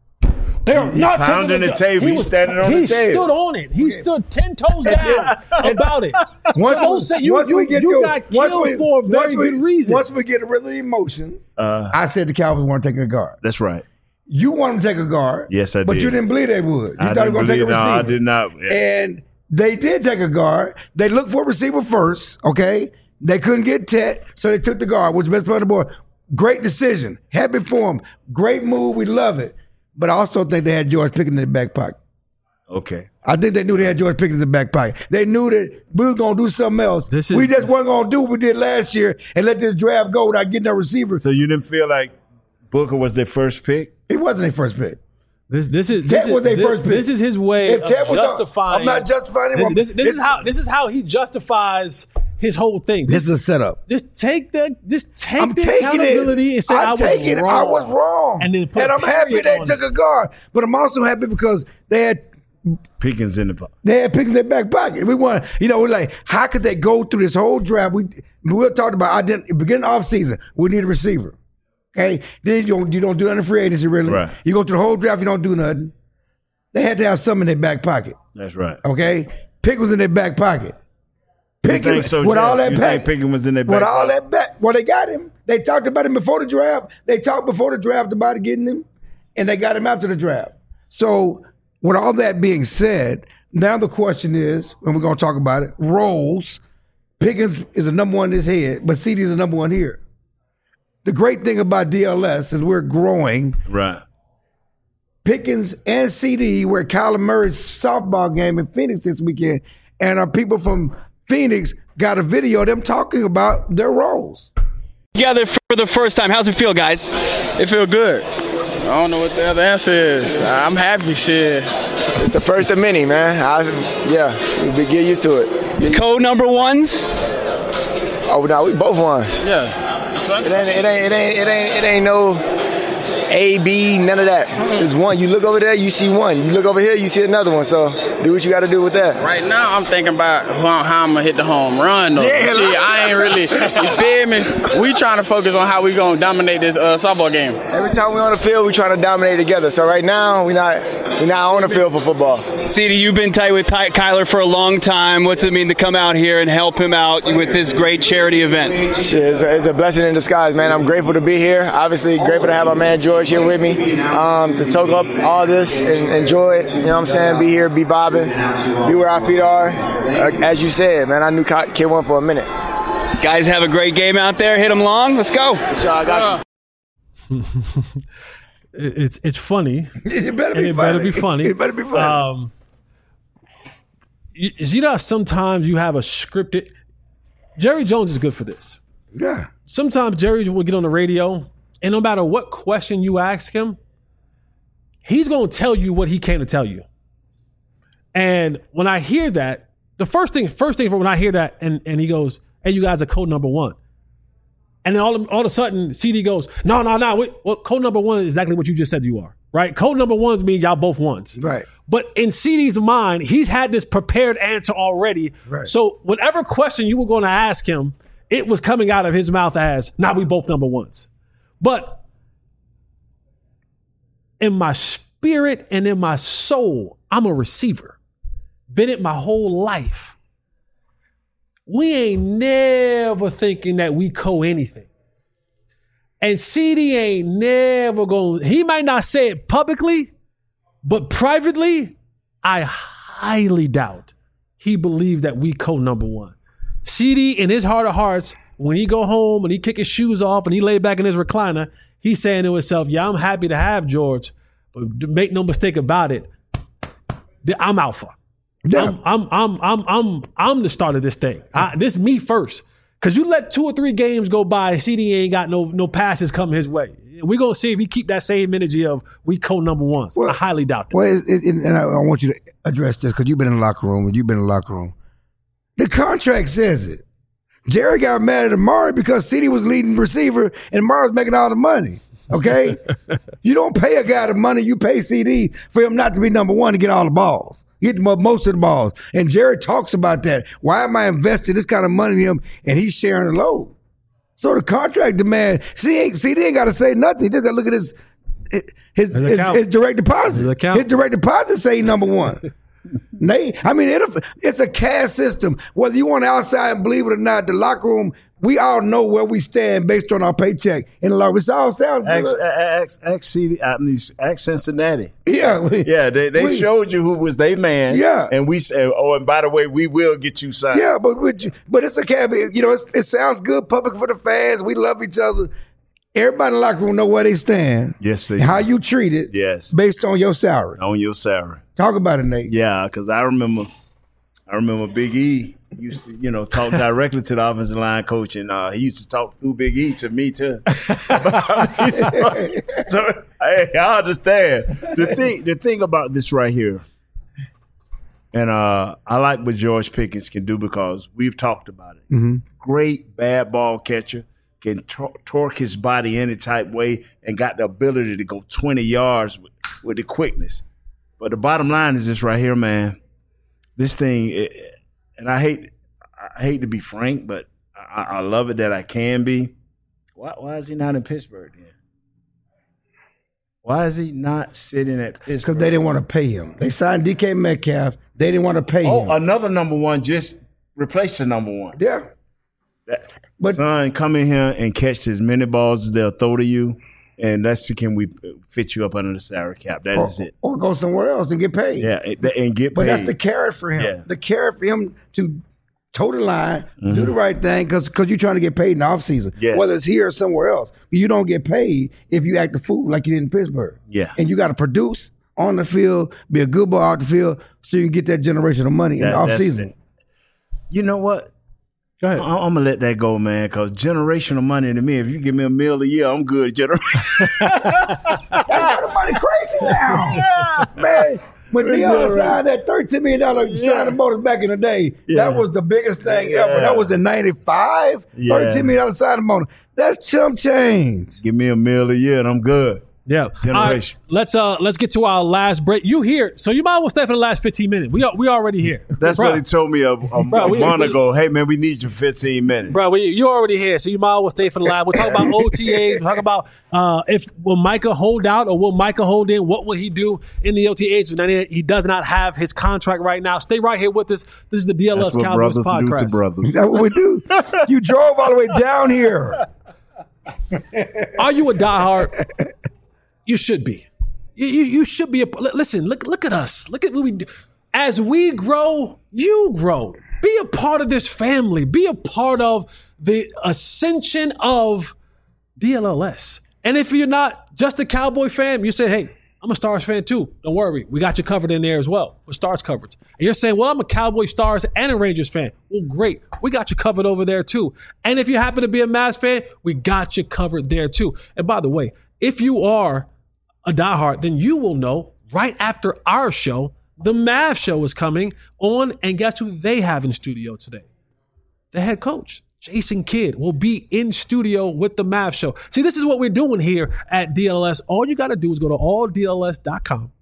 They're he not pounding the, the table. He was standing on he the table. He stood on it. He okay. stood ten toes down about it. Once, so we, say you, once you, we get you to, got killed we, for a very we, good reason. Once we get rid of the emotions, uh, I said the Cowboys weren't taking a guard. That's right. You wanted to take a guard. Yes, I did. But you didn't believe they would. You I thought they were going to take a receiver. No, I did not. Yeah. And they did take a guard. They looked for a receiver first, okay? They couldn't get Tet, so they took the guard, which was the best player on the board. Great decision. Happy for him. Great move. We love it. But I also think they had George Pickens in their back pocket. Okay. I think they knew they had George Pickens in the back pocket. They knew that we were going to do something else. This is, we just weren't going to do what we did last year and let this draft go without getting a receiver. So you didn't feel like Booker was their first pick? He wasn't their first pick. This this is Ted this was their this, first pick. This is his way if of Ted was justifying. The, I'm not justifying him. This, this, this, this is how this is how he justifies his whole thing. This, this is a setup. Just take the just take I'm the accountability it. and say I'm I was taking wrong. It. I was wrong. And then put and I'm happy they took it. a guard, but I'm also happy because they had Pickens in the pocket. They had Pickens in their back pocket. We want, you know, we're like, how could they go through this whole draft? We we talked about I didn't beginning of season. We need a receiver. Okay, then you don't you don't do nothing in free agency really. Right. You go through the whole draft, you don't do nothing. They had to have something in their back pocket. That's right. Okay, Pickens was in their back pocket. Pickens so, with Jeff? all that you back, Pickens was in their back with pocket? all that back. Well, they got him. They talked about him before the draft. They talked before the draft about getting him, and they got him after the draft. So, with all that being said, now the question is, and we're going to talk about it, roles. Pickens is the number one in his head, but C D is the number one here. The great thing about D L S is we're growing. Right. Pickens and C D were at Kyler Murray's softball game in Phoenix this weekend, and our people from Phoenix got a video of them talking about their roles. Together for the first time. How's it feel, guys? It feel good. I don't know what the other answer is. I'm happy, shit. It's the first of many, man. I, yeah, we get used to it. Co-number ones? Oh, no, we both ones. Yeah. It ain't, it ain't, it ain't, it ain't, it ain't no, A, B, none of that. It's one. You look over there, you see one. You look over here, you see another one. So do what you got to do with that. Right now, I'm thinking about how, how I'm going to hit the home run, though. Yeah, Shit, I ain't really, you feel me? We trying to focus on how we going to dominate this uh, softball game. Every time we on the field, we trying to dominate together. So right now, we not we not on the field for football. C D, you've been tight with Ty- Kyler for a long time. What's it mean to come out here and help him out with this great charity event? Shit, it's a, it's a blessing in disguise, man. I'm grateful to be here. Obviously, grateful to have my man George here with me um, to soak up all this and enjoy it. You know what I'm saying? Be here, be bobbing, be where our feet are. Uh, as you said, man, I knew Kid won for a minute. Guys, have a great game out there. Hit them long. Let's go. Sure, I got you. it's it's funny. It better and be it funny. better be funny. It better be funny. Um, you, you know, sometimes you have a scripted. Jerry Jones is good for this. Yeah. Sometimes Jerry will get on the radio, and no matter what question you ask him, he's going to tell you what he came to tell you. And when I hear that, the first thing, first thing when I hear that, and, and he goes, "Hey, you guys are code number one." And then all of, all of a sudden, C D goes, no, no, no. Wait, well, code number one is exactly what you just said you are, right? Code number ones means y'all both ones. Right. But in C D's mind, he's had this prepared answer already. Right. So whatever question you were going to ask him, it was coming out of his mouth as, nah, we both number ones. But in my spirit and in my soul, I'm a receiver. Been it my whole life. We ain't never thinking that we co anything. And C D ain't never going, he might not say it publicly, but privately, I highly doubt he believed that we co number one. C D, in his heart of hearts, when he go home and he kick his shoes off and he lay back in his recliner, he's saying to himself, yeah, I'm happy to have George, but make no mistake about it, I'm alpha. Yeah. I'm, I'm, I'm, I'm, I'm, I'm the start of this thing. I, this me first. Cause you let two or three games go by, C D ain't got no no passes coming his way. We're gonna see if he keep that same energy of we co number ones. Well, I highly doubt that. Well, it, it, and I, I want you to address this because you've been in the locker room and you've been in the locker room. The contract says it. Jerry got mad at Amari because C D was leading receiver and Amari was making all the money. Okay, you don't pay a guy the money you pay C D for him not to be number one to get all the balls. Get most of the balls. And Jerry talks about that. Why am I investing this kind of money in him and he's sharing the load? So the contract demand, C D ain't got to say nothing. He just got to look at his his, his, his, his direct deposit. His, his direct deposit say he's number one. They, I mean, it, it's a cash system. Whether you want outside and believe it or not, the locker room, we all know where we stand based on our paycheck in the locker room. It all sounds good. Ask, ask, C D, I mean, ask Cincinnati. Yeah. We, yeah, they, they we, showed you who was their man. Yeah. And we said, oh, and by the way, we will get you signed. Yeah, but but it's a cab. You know, it's, it sounds good public for the fans. We love each other. Everybody in the locker room know where they stand. Yes, they How do. you treat it. Yes. Based on your salary. On your salary. Talk about it, Nate. Yeah, because I remember, I remember Big E used to, you know, talk directly to the offensive line coach, and uh, he used to talk through Big E to me too. so, so hey, I understand the thing. The thing about this right here, and uh, I like what George Pickens can do because we've talked about it. Mm-hmm. Great bad ball catcher. Can tor- torque his body any type way and got the ability to go twenty yards with, with the quickness. But the bottom line is this right here, man. This thing, it, and I hate I hate to be frank, but I, I love it that I can be. Why, why is he not in Pittsburgh then? Why is he not sitting at Pittsburgh? Because they didn't want to pay him. They signed D K Metcalf. They didn't want to pay oh, him. Oh, another number one just replaced the number one. Yeah. That, But son, come in here and catch as many balls as they'll throw to you, and that's can we fit you up under the salary cap. That or, is it. Or go somewhere else and get paid. Yeah, and, and get but paid. But that's the carrot for him. Yeah. The carrot for him to toe the line, mm-hmm. do the right thing, because you're trying to get paid in the offseason. Yes. Whether it's here or somewhere else. You don't get paid if you act a fool like you did in Pittsburgh. Yeah. And you got to produce on the field, be a good ball out the field, so you can get that generational money that, in the offseason. You know what? Go ahead. I- I'm gonna let that go, man. Because generational money to me, if you give me a meal a year, I'm good. Generation. That's not the money crazy now, yeah. man. When Deion right. signed that thirteen million dollars yeah. signing bonus back in the day, yeah. that was the biggest thing yeah. ever. That was in ninety-five. Yeah. thirteen million dollars signing bonus. That's chump change. Give me a meal a year and I'm good. Yeah. Generation. All right, let's uh let's get to our last break. You here, so you might as well stay for the last fifteen minutes. We are, we already here. That's bro. what he told me a, a, Bro, a we- month we- ago. Hey, man, we need you fifteen minutes. Bro, we, you're already here, so you might as well stay for the last. We'll talk about O T As. We'll talk about uh, if will Micah hold out or will Micah hold in? What will he do in the O T As? He does not have his contract right now. Stay right here with us. This is the D L S That's what Cowboys brothers do to podcast. brothers. Is that what we do? You drove all the way down here. Are you a diehard? You should be. You, you, you should be a. Listen, look look at us. Look at what we do. As we grow, you grow. Be a part of this family. Be a part of the ascension of D L L S. And if you're not just a Cowboy fan, you say, hey, I'm a Stars fan too. Don't worry. We got you covered in there as well with Stars coverage. And you're saying, well, I'm a Cowboy, Stars, and a Rangers fan. Well, great. We got you covered over there too. And if you happen to be a Mavs fan, we got you covered there too. And by the way, if you are a diehard, then you will know right after our show, the Mavs show is coming on. And guess who they have in studio today? The head coach. Jason Kidd will be in studio with the Mavs show. See, this is what we're doing here at D L S. All you got to do is go to all D L S dot com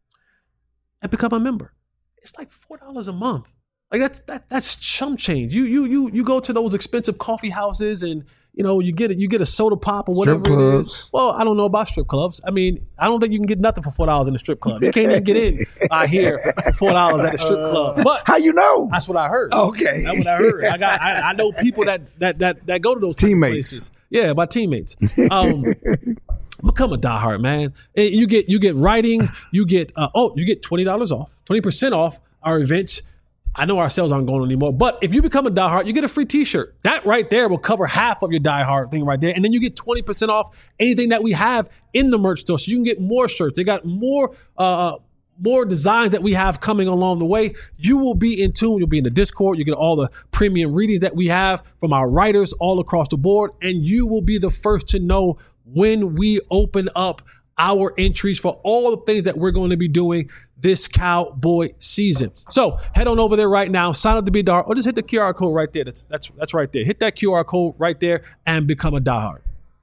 and become a member. It's like four dollars a month. Like that's that that's chump change. You you you you go to those expensive coffee houses and you know you get it. You get a soda pop or whatever Strip it clubs. is. Well, I don't know about strip clubs. I mean, I don't think you can get nothing for four dollars in a strip club. You can't even get in. I hear for four dollars at a strip club. But How you know? that's what I heard. Okay. That's what I heard. I got. I, I know people that that that that go to those type of Teammates. places. Yeah, my teammates. Um, become a diehard, man. And you get you get writing. You get uh, oh, you get twenty dollars off, twenty percent off our events. I know our sales aren't going on anymore, but if you become a diehard, you get a free T-shirt. That right there will cover half of your diehard thing right there, and then you get twenty percent off anything that we have in the merch store, so you can get more shirts. They got more. Uh, more designs that we have coming along the way. You will be in tune. You'll be in the Discord. You get all the premium readings that we have from our writers all across the board. And you will be the first to know when we open up our entries for all the things that we're going to be doing this Cowboy season. So head on over there right now, sign up to be a diehard, or just hit the Q R code right there. That's that's that's right there. Hit that Q R code right there and become a diehard.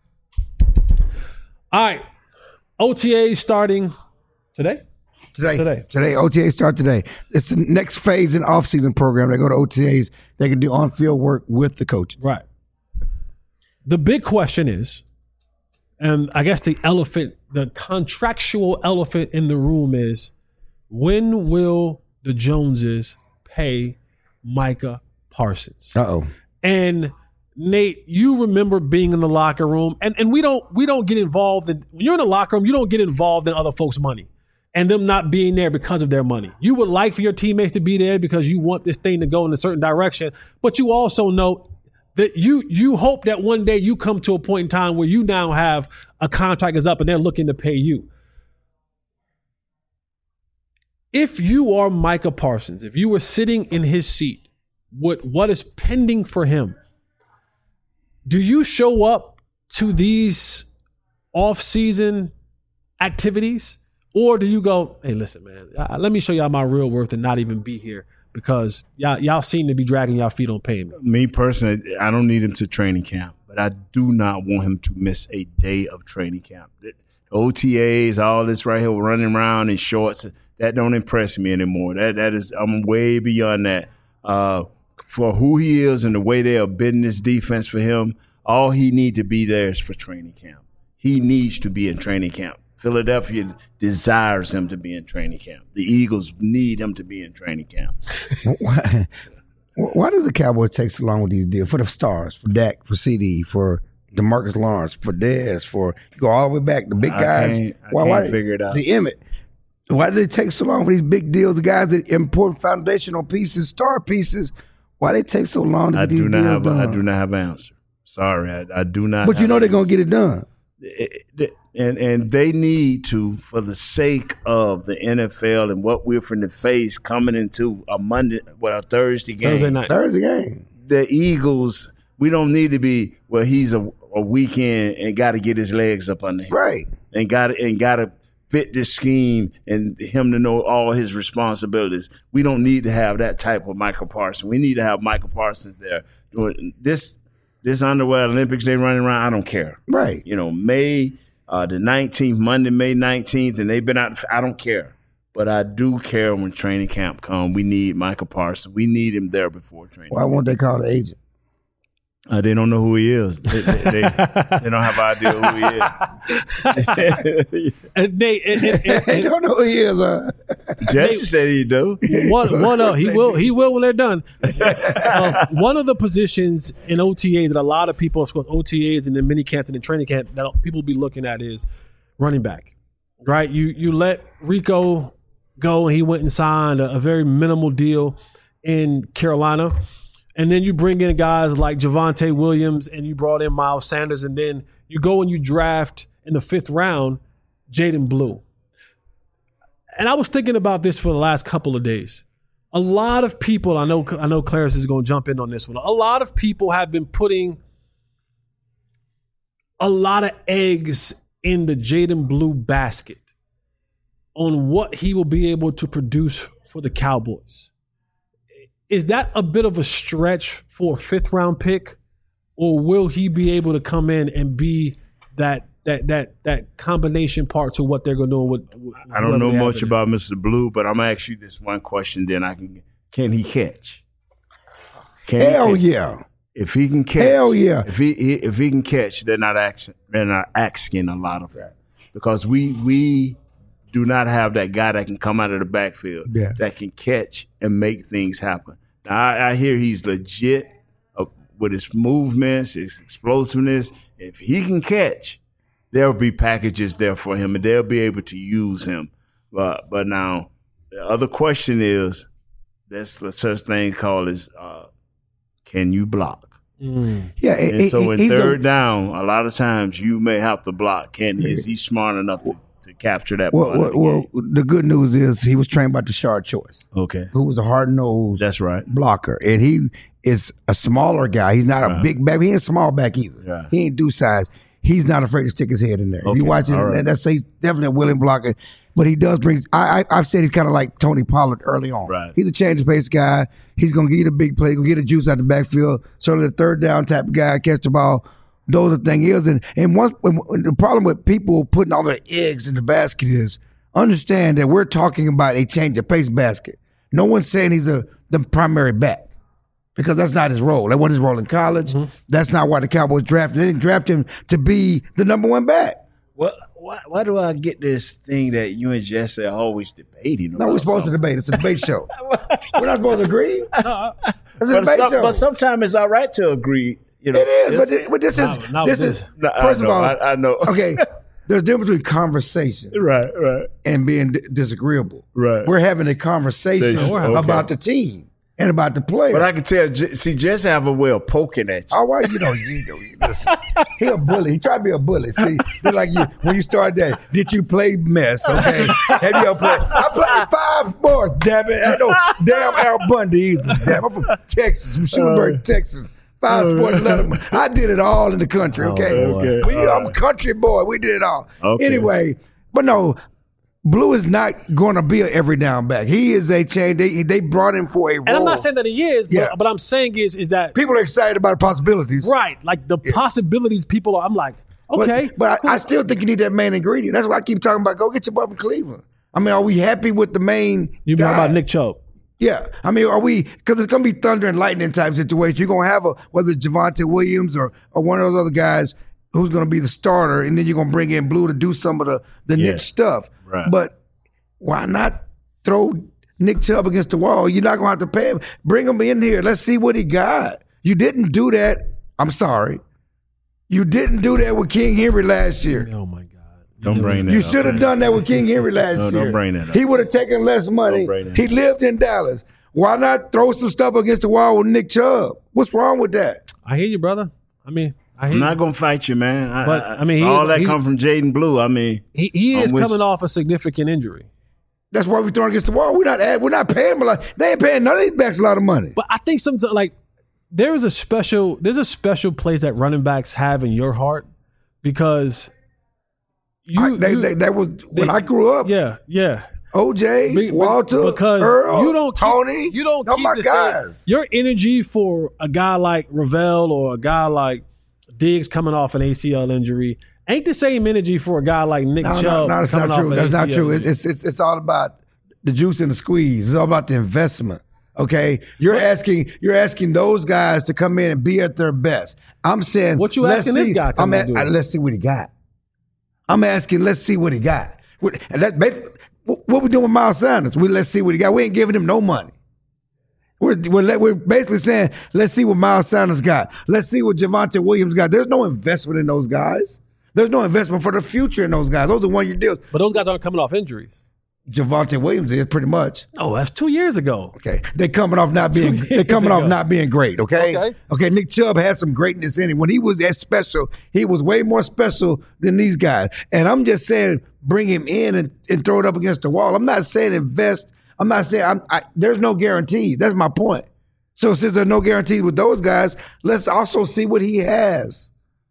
All right. O T A starting today. Today, Today. today, O T As start today. It's the next phase in off-season program. They go to O T As. They can do on-field work with the coach. Right. The big question is, and I guess the elephant, the contractual elephant in the room is, when will the Joneses pay Micah Parsons? Uh-oh. And Nate, you remember being in the locker room, and, and we don't we don't get involved in when you're in the locker room, you don't get involved in other folks' money and them not being there because of their money. You would like for your teammates to be there because you want this thing to go in a certain direction, but you also know that you you hope that one day you come to a point in time where you now have a contract is up and they're looking to pay you. If you are Micah Parsons, if you were sitting in his seat, what what is pending for him? Do you show up to these off-season activities? Or do you go, hey, listen, man, uh, let me show y'all my real worth and not even be here because y'all, y'all seem to be dragging y'all feet on payment? Me personally, I don't need him to training camp, but I do not want him to miss a day of training camp. The O T As, all this right here, running around in shorts, that don't impress me anymore. That That is, I'm way beyond that. Uh, for who he is and the way they are bidding this defense for him, all he needs to be there is for training camp. He needs to be in training camp. Philadelphia desires him to be in training camp. The Eagles need him to be in training camp. Why, why does the Cowboys take so long with these deals? For the stars, for Dak, for C D, for DeMarcus Lawrence, for Dez, for you go all the way back, the big I guys. can't- I why, can't why, figure it out. The Emmett. Why do they take so long for these big deals? The guys that important foundational pieces, star pieces. Why they take so long to I get these do not deals have. A, done? I do not have an answer. Sorry, I, I do not. But you have know an they're gonna answer. get it done. It- it- and and they need to, for the sake of the N F L and what we're from the face coming into a Monday, well, a Thursday game. Thursday night. Thursday game. The Eagles, we don't need to be. Well, he's a, a weekend and got to get his legs up under him, Right. and got to and got to fit this scheme and him to know all his responsibilities. We don't need to have that type of Michael Parsons. We need to have Michael Parsons there doing this. This underwear Olympics they running around. I don't care. Right. You know, May uh, the nineteenth, Monday, May nineteenth, and they've been out. I don't care. But I do care when training camp come. We need Micah Parsons. We need him there before training Why camp. won't they call the agent? Uh, they don't know who he is. They, they, they, they don't have an idea who he is. And they, and, and, and, They don't know who he is. Uh. Jesse they, said he do. One, one of he will, he will when they're done. Uh, one of the positions in O T A that a lot of people, of course, O T As and then mini camps and then training camp that people will be looking at is running back. Right? You you let Rico go, and he went and signed a, a very minimal deal in Carolina. And then you bring in guys like Javonte Williams, and you brought in Miles Sanders, and then you go and you draft in the fifth round Jaden Blue. And I was thinking about this for the last couple of days. A lot of people, I know I know Clarence is going to jump in on this one. A lot of people have been putting a lot of eggs in the Jaden Blue basket on what he will be able to produce for the Cowboys. Is that a bit of a stretch for a fifth round pick, or will he be able to come in and be that that that that combination part to what they're going to do? With, with I don't know much about Mister Blue, but I'm gonna ask you this one question. Then I can can he catch? Can Hell he catch? yeah! If he can catch, hell yeah! If he if he can catch, they're not asking they're not asking a lot of that because we we do not have that guy that can come out of the backfield yeah. that can catch and make things happen. Now, I, I hear he's legit uh, with his movements, his explosiveness. If he can catch, there'll be packages there for him, and they'll be able to use him. But but now, the other question is, there's such thing called is, uh, can you block? Mm. Yeah, and it, so it, in he's third a, down, a lot of times you may have to block. Can is he smart enough to, to capture that? Well, part well, of the well, game? the good news is he was trained by Tashard Choice, Okay, who was a hard-nosed that's right. blocker, and he is a smaller guy. He's not a Right. big back. He ain't a small back either. Right. He ain't do size. He's not afraid to stick his head in there. If Okay, you watch it, all right. that, that's he's definitely a willing blocker. But he does bring. I, I I've said he's kind of like Tony Pollard early on. Right. He's a change of pace guy. He's gonna get you the big play, gonna get the juice out the backfield. Certainly the third down type of guy, catch the ball. Those are the thing is, and and once when, when the problem with people putting all their eggs in the basket is understand that we're talking about a change of pace basket. No one's saying he's a the primary back. Because that's not his role. That wasn't his role in college. Mm-hmm. That's not why the Cowboys drafted. They didn't draft him to be the number one back. Well, why, why do I get this thing that you and Jesse are always debating? No, we're supposed something? to debate. It's a debate show. We're not supposed to agree. It's a But, debate some, show. but sometimes it's all right to agree. You know, it is, It's- but, this, but this is Not- not this with is this. No, I first know, of all. I, I know. Okay, there's a difference between conversation right, right, and being d- disagreeable. right. We're having a conversation They- okay. about the team and about the player. But I can tell. J- See, Jesse have a way of poking at you. All right, you know, you, you listen, he a bully. He tried to be a bully. See, they're like you when you start that. Did you play mess? Okay, have you ever played? I played five sports. Damn it, I know damn Al Bundy either. Damn, I'm from Texas, from Schulenburg, Texas. Five sports, Letterman. I did it all in the country. Okay, okay. we, All I'm a country boy. We did it all. Okay. Anyway, but no. Blue is not going to be an every down back. He is a change. They they brought him for a role. And I'm not saying that he is, but, Yeah. but I'm saying is is that people are excited about the possibilities. right? Like the possibilities, people are. I'm like, okay, But, but I, I still think you need that main ingredient. That's why I keep talking about go get your boy from Cleveland. I mean, are we happy with the main you guy? mean about Nick Chubb? Yeah. I mean, are we, because it's going to be thunder and lightning type situation. You're going to have a, whether it's Javonte Williams or, or one of those other guys who's going to be the starter, and then you're going to bring in Blue to do some of the, the Yeah. Nick stuff. Right. But why not throw Nick Chubb against the wall? You're not going to have to pay him. Bring him in here. Let's see what he got. You didn't do that. I'm sorry. You didn't do that with King Henry last year. Oh my God! Don't bring that You up. should have done that with King Henry last No, year. don't bring that up. He would have taken less money. Don't bring that He up. lived in Dallas. Why not throw some stuff against the wall with Nick Chubb? What's wrong with that? I hear you, brother. I mean, I hear I'm you. not gonna fight you, man. I, But, I mean, he all is- that he- come from Jaden Blue. I mean, he he is I'm with coming you. off a significant injury. That's why we're throwing against the wall. We're not add, we're not paying him a lot. They ain't paying none of these backs a lot of money. But I think sometimes like there is a special there's a special place that running backs have in your heart because you, I, they, you- they, that was when they- I grew up. yeah yeah O J, Be- be- Walter, because Earl, you don't keep, Tony. you don't those keep my the same- guys. your energy for a guy like Ravel or a guy like Diggs coming off an A C L injury ain't the same energy for a guy like Nick No, Chubb. no, no, that's not coming true. off That's an not A C L true. injury. It's, it's it's all about the juice and the squeeze. It's all about the investment. Okay, you're asking you're asking those guys to come in and be at their best. I'm saying, What you let's asking this see- guy come I'm and at, do? uh, let's see what he got. I'm asking, let's see what he got. What, and that, basi- what we doing with Miles Sanders? We let's see what he got. We ain't giving him no money. We're we're, let- we're basically saying, let's see what Miles Sanders got. Let's see what Javonte Williams got. There's no investment in those guys. There's no investment for the future in those guys. Those are one-year deals. But those guys aren't coming off injuries. Javonte Williams is pretty much. No, that's two years ago. Okay, they coming off not being Two they years coming off ago. not being great. Okay? Okay. okay. Nick Chubb has some greatness in him. When he was as special, he was way more special than these guys. And I'm just saying, bring him in and, and throw it up against the wall. I'm not saying invest. I'm not saying I'm, I, there's no guarantees. That's my point. So since there's no guarantees with those guys, let's also see what he has.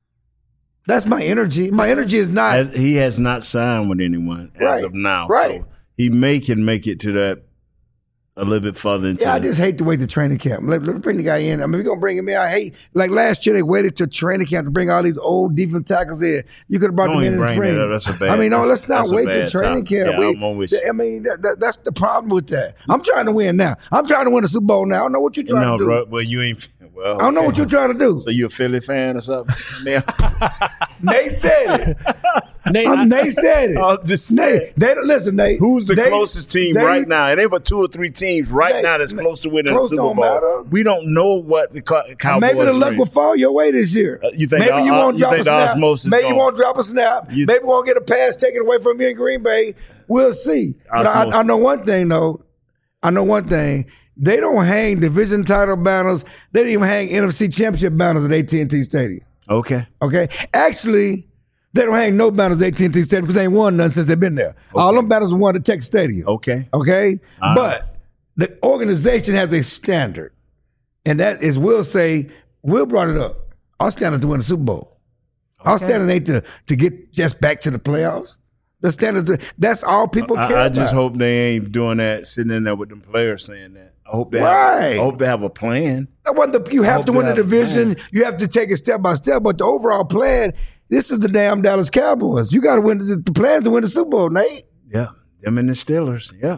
That's my energy. My energy is not. As, he has not signed with anyone as Right, of now. right. So he may can make it to that a little bit further into Yeah, I the- just hate to wait to training camp. Let, let's bring the guy in. I mean, we're going to bring him in. I hate, like last year, they waited till training camp to bring all these old defensive tackles in. You could have brought Don't them in even in the bring spring. that up. That's a bad- I mean, no, that's- let's not that's a wait till bad training time. camp. Yeah, We- I'm on with you. I mean, that, that, that's the problem with that. I'm trying to win now. I'm trying to win a Super Bowl now. I don't know what you're trying No, to do. bro, well, you ain't. Well, I don't know okay. what you're trying to do. So you a Philly fan or something? Man, Nate said it. Nate, Um, I- Nate said it. I'm just Nate, saying. they, listen, Nate. Who's the they- closest team they- right now? And there were two or three teams right Nate, now that's Nate, close to winning the close Super don't Bowl. matter. We don't know what the Co- Cowboys Maybe the luck bring. will fall your way this year. Uh, you think maybe the- you uh, won't you drop think a the snap. osmosis Maybe you gonna- won't drop a snap. You- maybe we won't get a pass taken away from you in Green Bay. We'll see. But I, Osmosis. I know one thing though. I know one thing. They don't hang division title banners. They didn't even hang N F C championship banners at A T and T Stadium. Okay. Okay, actually, they don't hang no banners at A T and T Stadium because they ain't won none since they've been there. All them banners were won at Texas Stadium. Okay. Okay? All But the organization has a standard. And that is, Will say, Will brought it up. Our standard is to win the Super Bowl. Our standard ain't to, to get just back to the playoffs. The standard, is- that's all people care I, I about. just hope they ain't doing that, sitting in there with them players saying that. I hope they have. Right. I hope they have a plan. That wasn't the- you I have hope to they win the have a division. plan. You have to take it step by step. But the overall plan, this is the damn Dallas Cowboys. You got to win the, the plan to win the Super Bowl, Nate. Yeah, them and the Steelers. Yeah,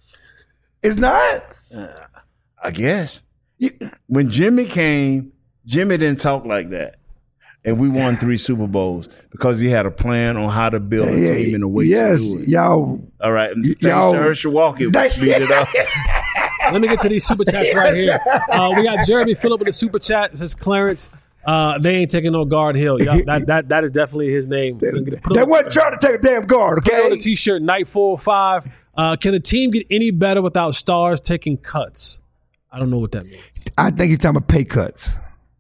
It's not. I guess. You, When Jimmy came, Jimmy didn't talk like that. And we won three Super Bowls because he had a plan on how to build a yeah, team and a way yes, to do it. y'all. All right. And y- thanks y'all- to Herschel Walker, we They- speed it up. Let me get to these super chats right here. Uh, we got Jeremy Phillip with the super chat. It says Clarence. Uh, they ain't taking no guard hill. Yeah, that, that that is definitely his name. Put They on- wasn't trying to take a damn guard, put on okay? the t-shirt. Night four oh five. Uh, can the team get any better without stars taking cuts? I don't know what that means. I think he's talking about pay cuts.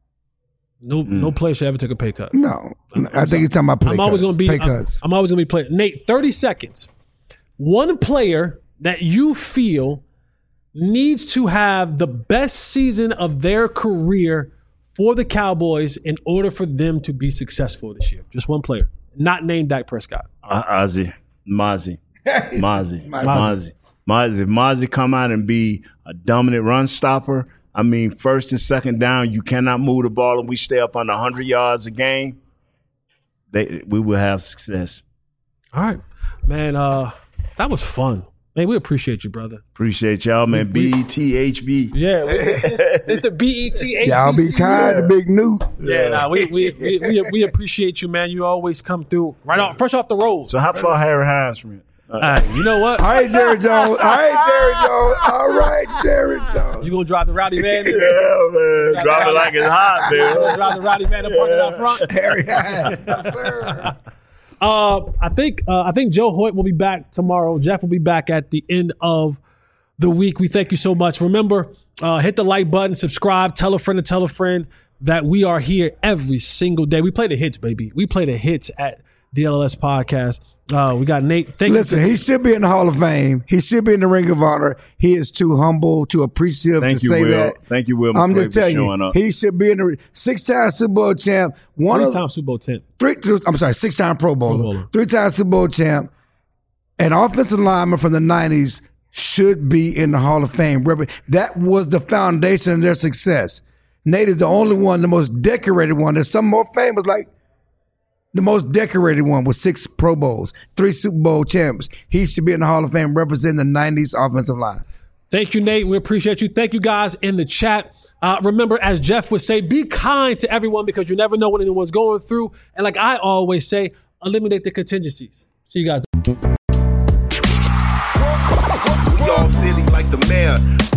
No, no player should ever take a pay cut. No, I think he's talking about pay I'm cuts. always going to be. pay I'm, cuts. I'm always going to be playing. Nate, thirty seconds. One player that you feel needs to have the best season of their career for the Cowboys in order for them to be successful this year. Just one player, not named Dak Prescott. Uh, Ozzy, Mozzie, Mozzie, Mozzie, Mozzie. Mozzie come out and be a dominant run stopper. I mean, first and second down, you cannot move the ball, and we stay up under one hundred yards a game. They, we will have success. All right, man. Uh, that was fun. Man, we appreciate you, brother. Appreciate y'all, man. B E T H B. Yeah, it's, it's the B E T H B C. Y'all be kind to Big Newt. Yeah, nah, we, we, we, we, we appreciate you, man. You always come through right off, fresh off the road. So how far Harry Hines from it? All right, you know what? All right, Jerry Jones. All right, Jerry Jones. All right, Jerry Jones. You gonna drive the rowdy van? Yeah, man. Drop it like it's hot, You gonna man. drive the rowdy van and park it out front? Harry Hines. Yes, sir. Uh, I think uh, I think Joe Hoyt will be back tomorrow. Jeff will be back at the end of the week. We thank you so much. Remember, uh, hit the like button, subscribe, tell a friend to tell a friend that we are here every single day. We play the hits, baby. We play the hits at D L L S Podcast. Uh, we got Nate. Thank Listen, you. he should be in the Hall of Fame. He should be in the Ring of Honor. He is too humble, too appreciative Thank to you, say Will. that. Thank you, Will. I'm McCray, just telling for showing you, up. he should be in the six-time Super Bowl champ. One of Three-time Super Bowl champ. three, three I'm sorry, six-time Pro Bowler, Pro Bowler. three-time Super Bowl champ, an offensive lineman from the nineties should be in the Hall of Fame. That was the foundation of their success. Nate is the only one, the most decorated one. There's some more famous like the most decorated one with six Pro Bowls, three Super Bowl champs. He should be in the Hall of Fame representing the nineties offensive line. Thank you, Nate. We appreciate you. Thank you guys in the chat. Uh, remember, as Jeff would say, be kind to everyone because you never know what anyone's going through. And like I always say, eliminate the contingencies. See you guys. Y'all silly like the mayor.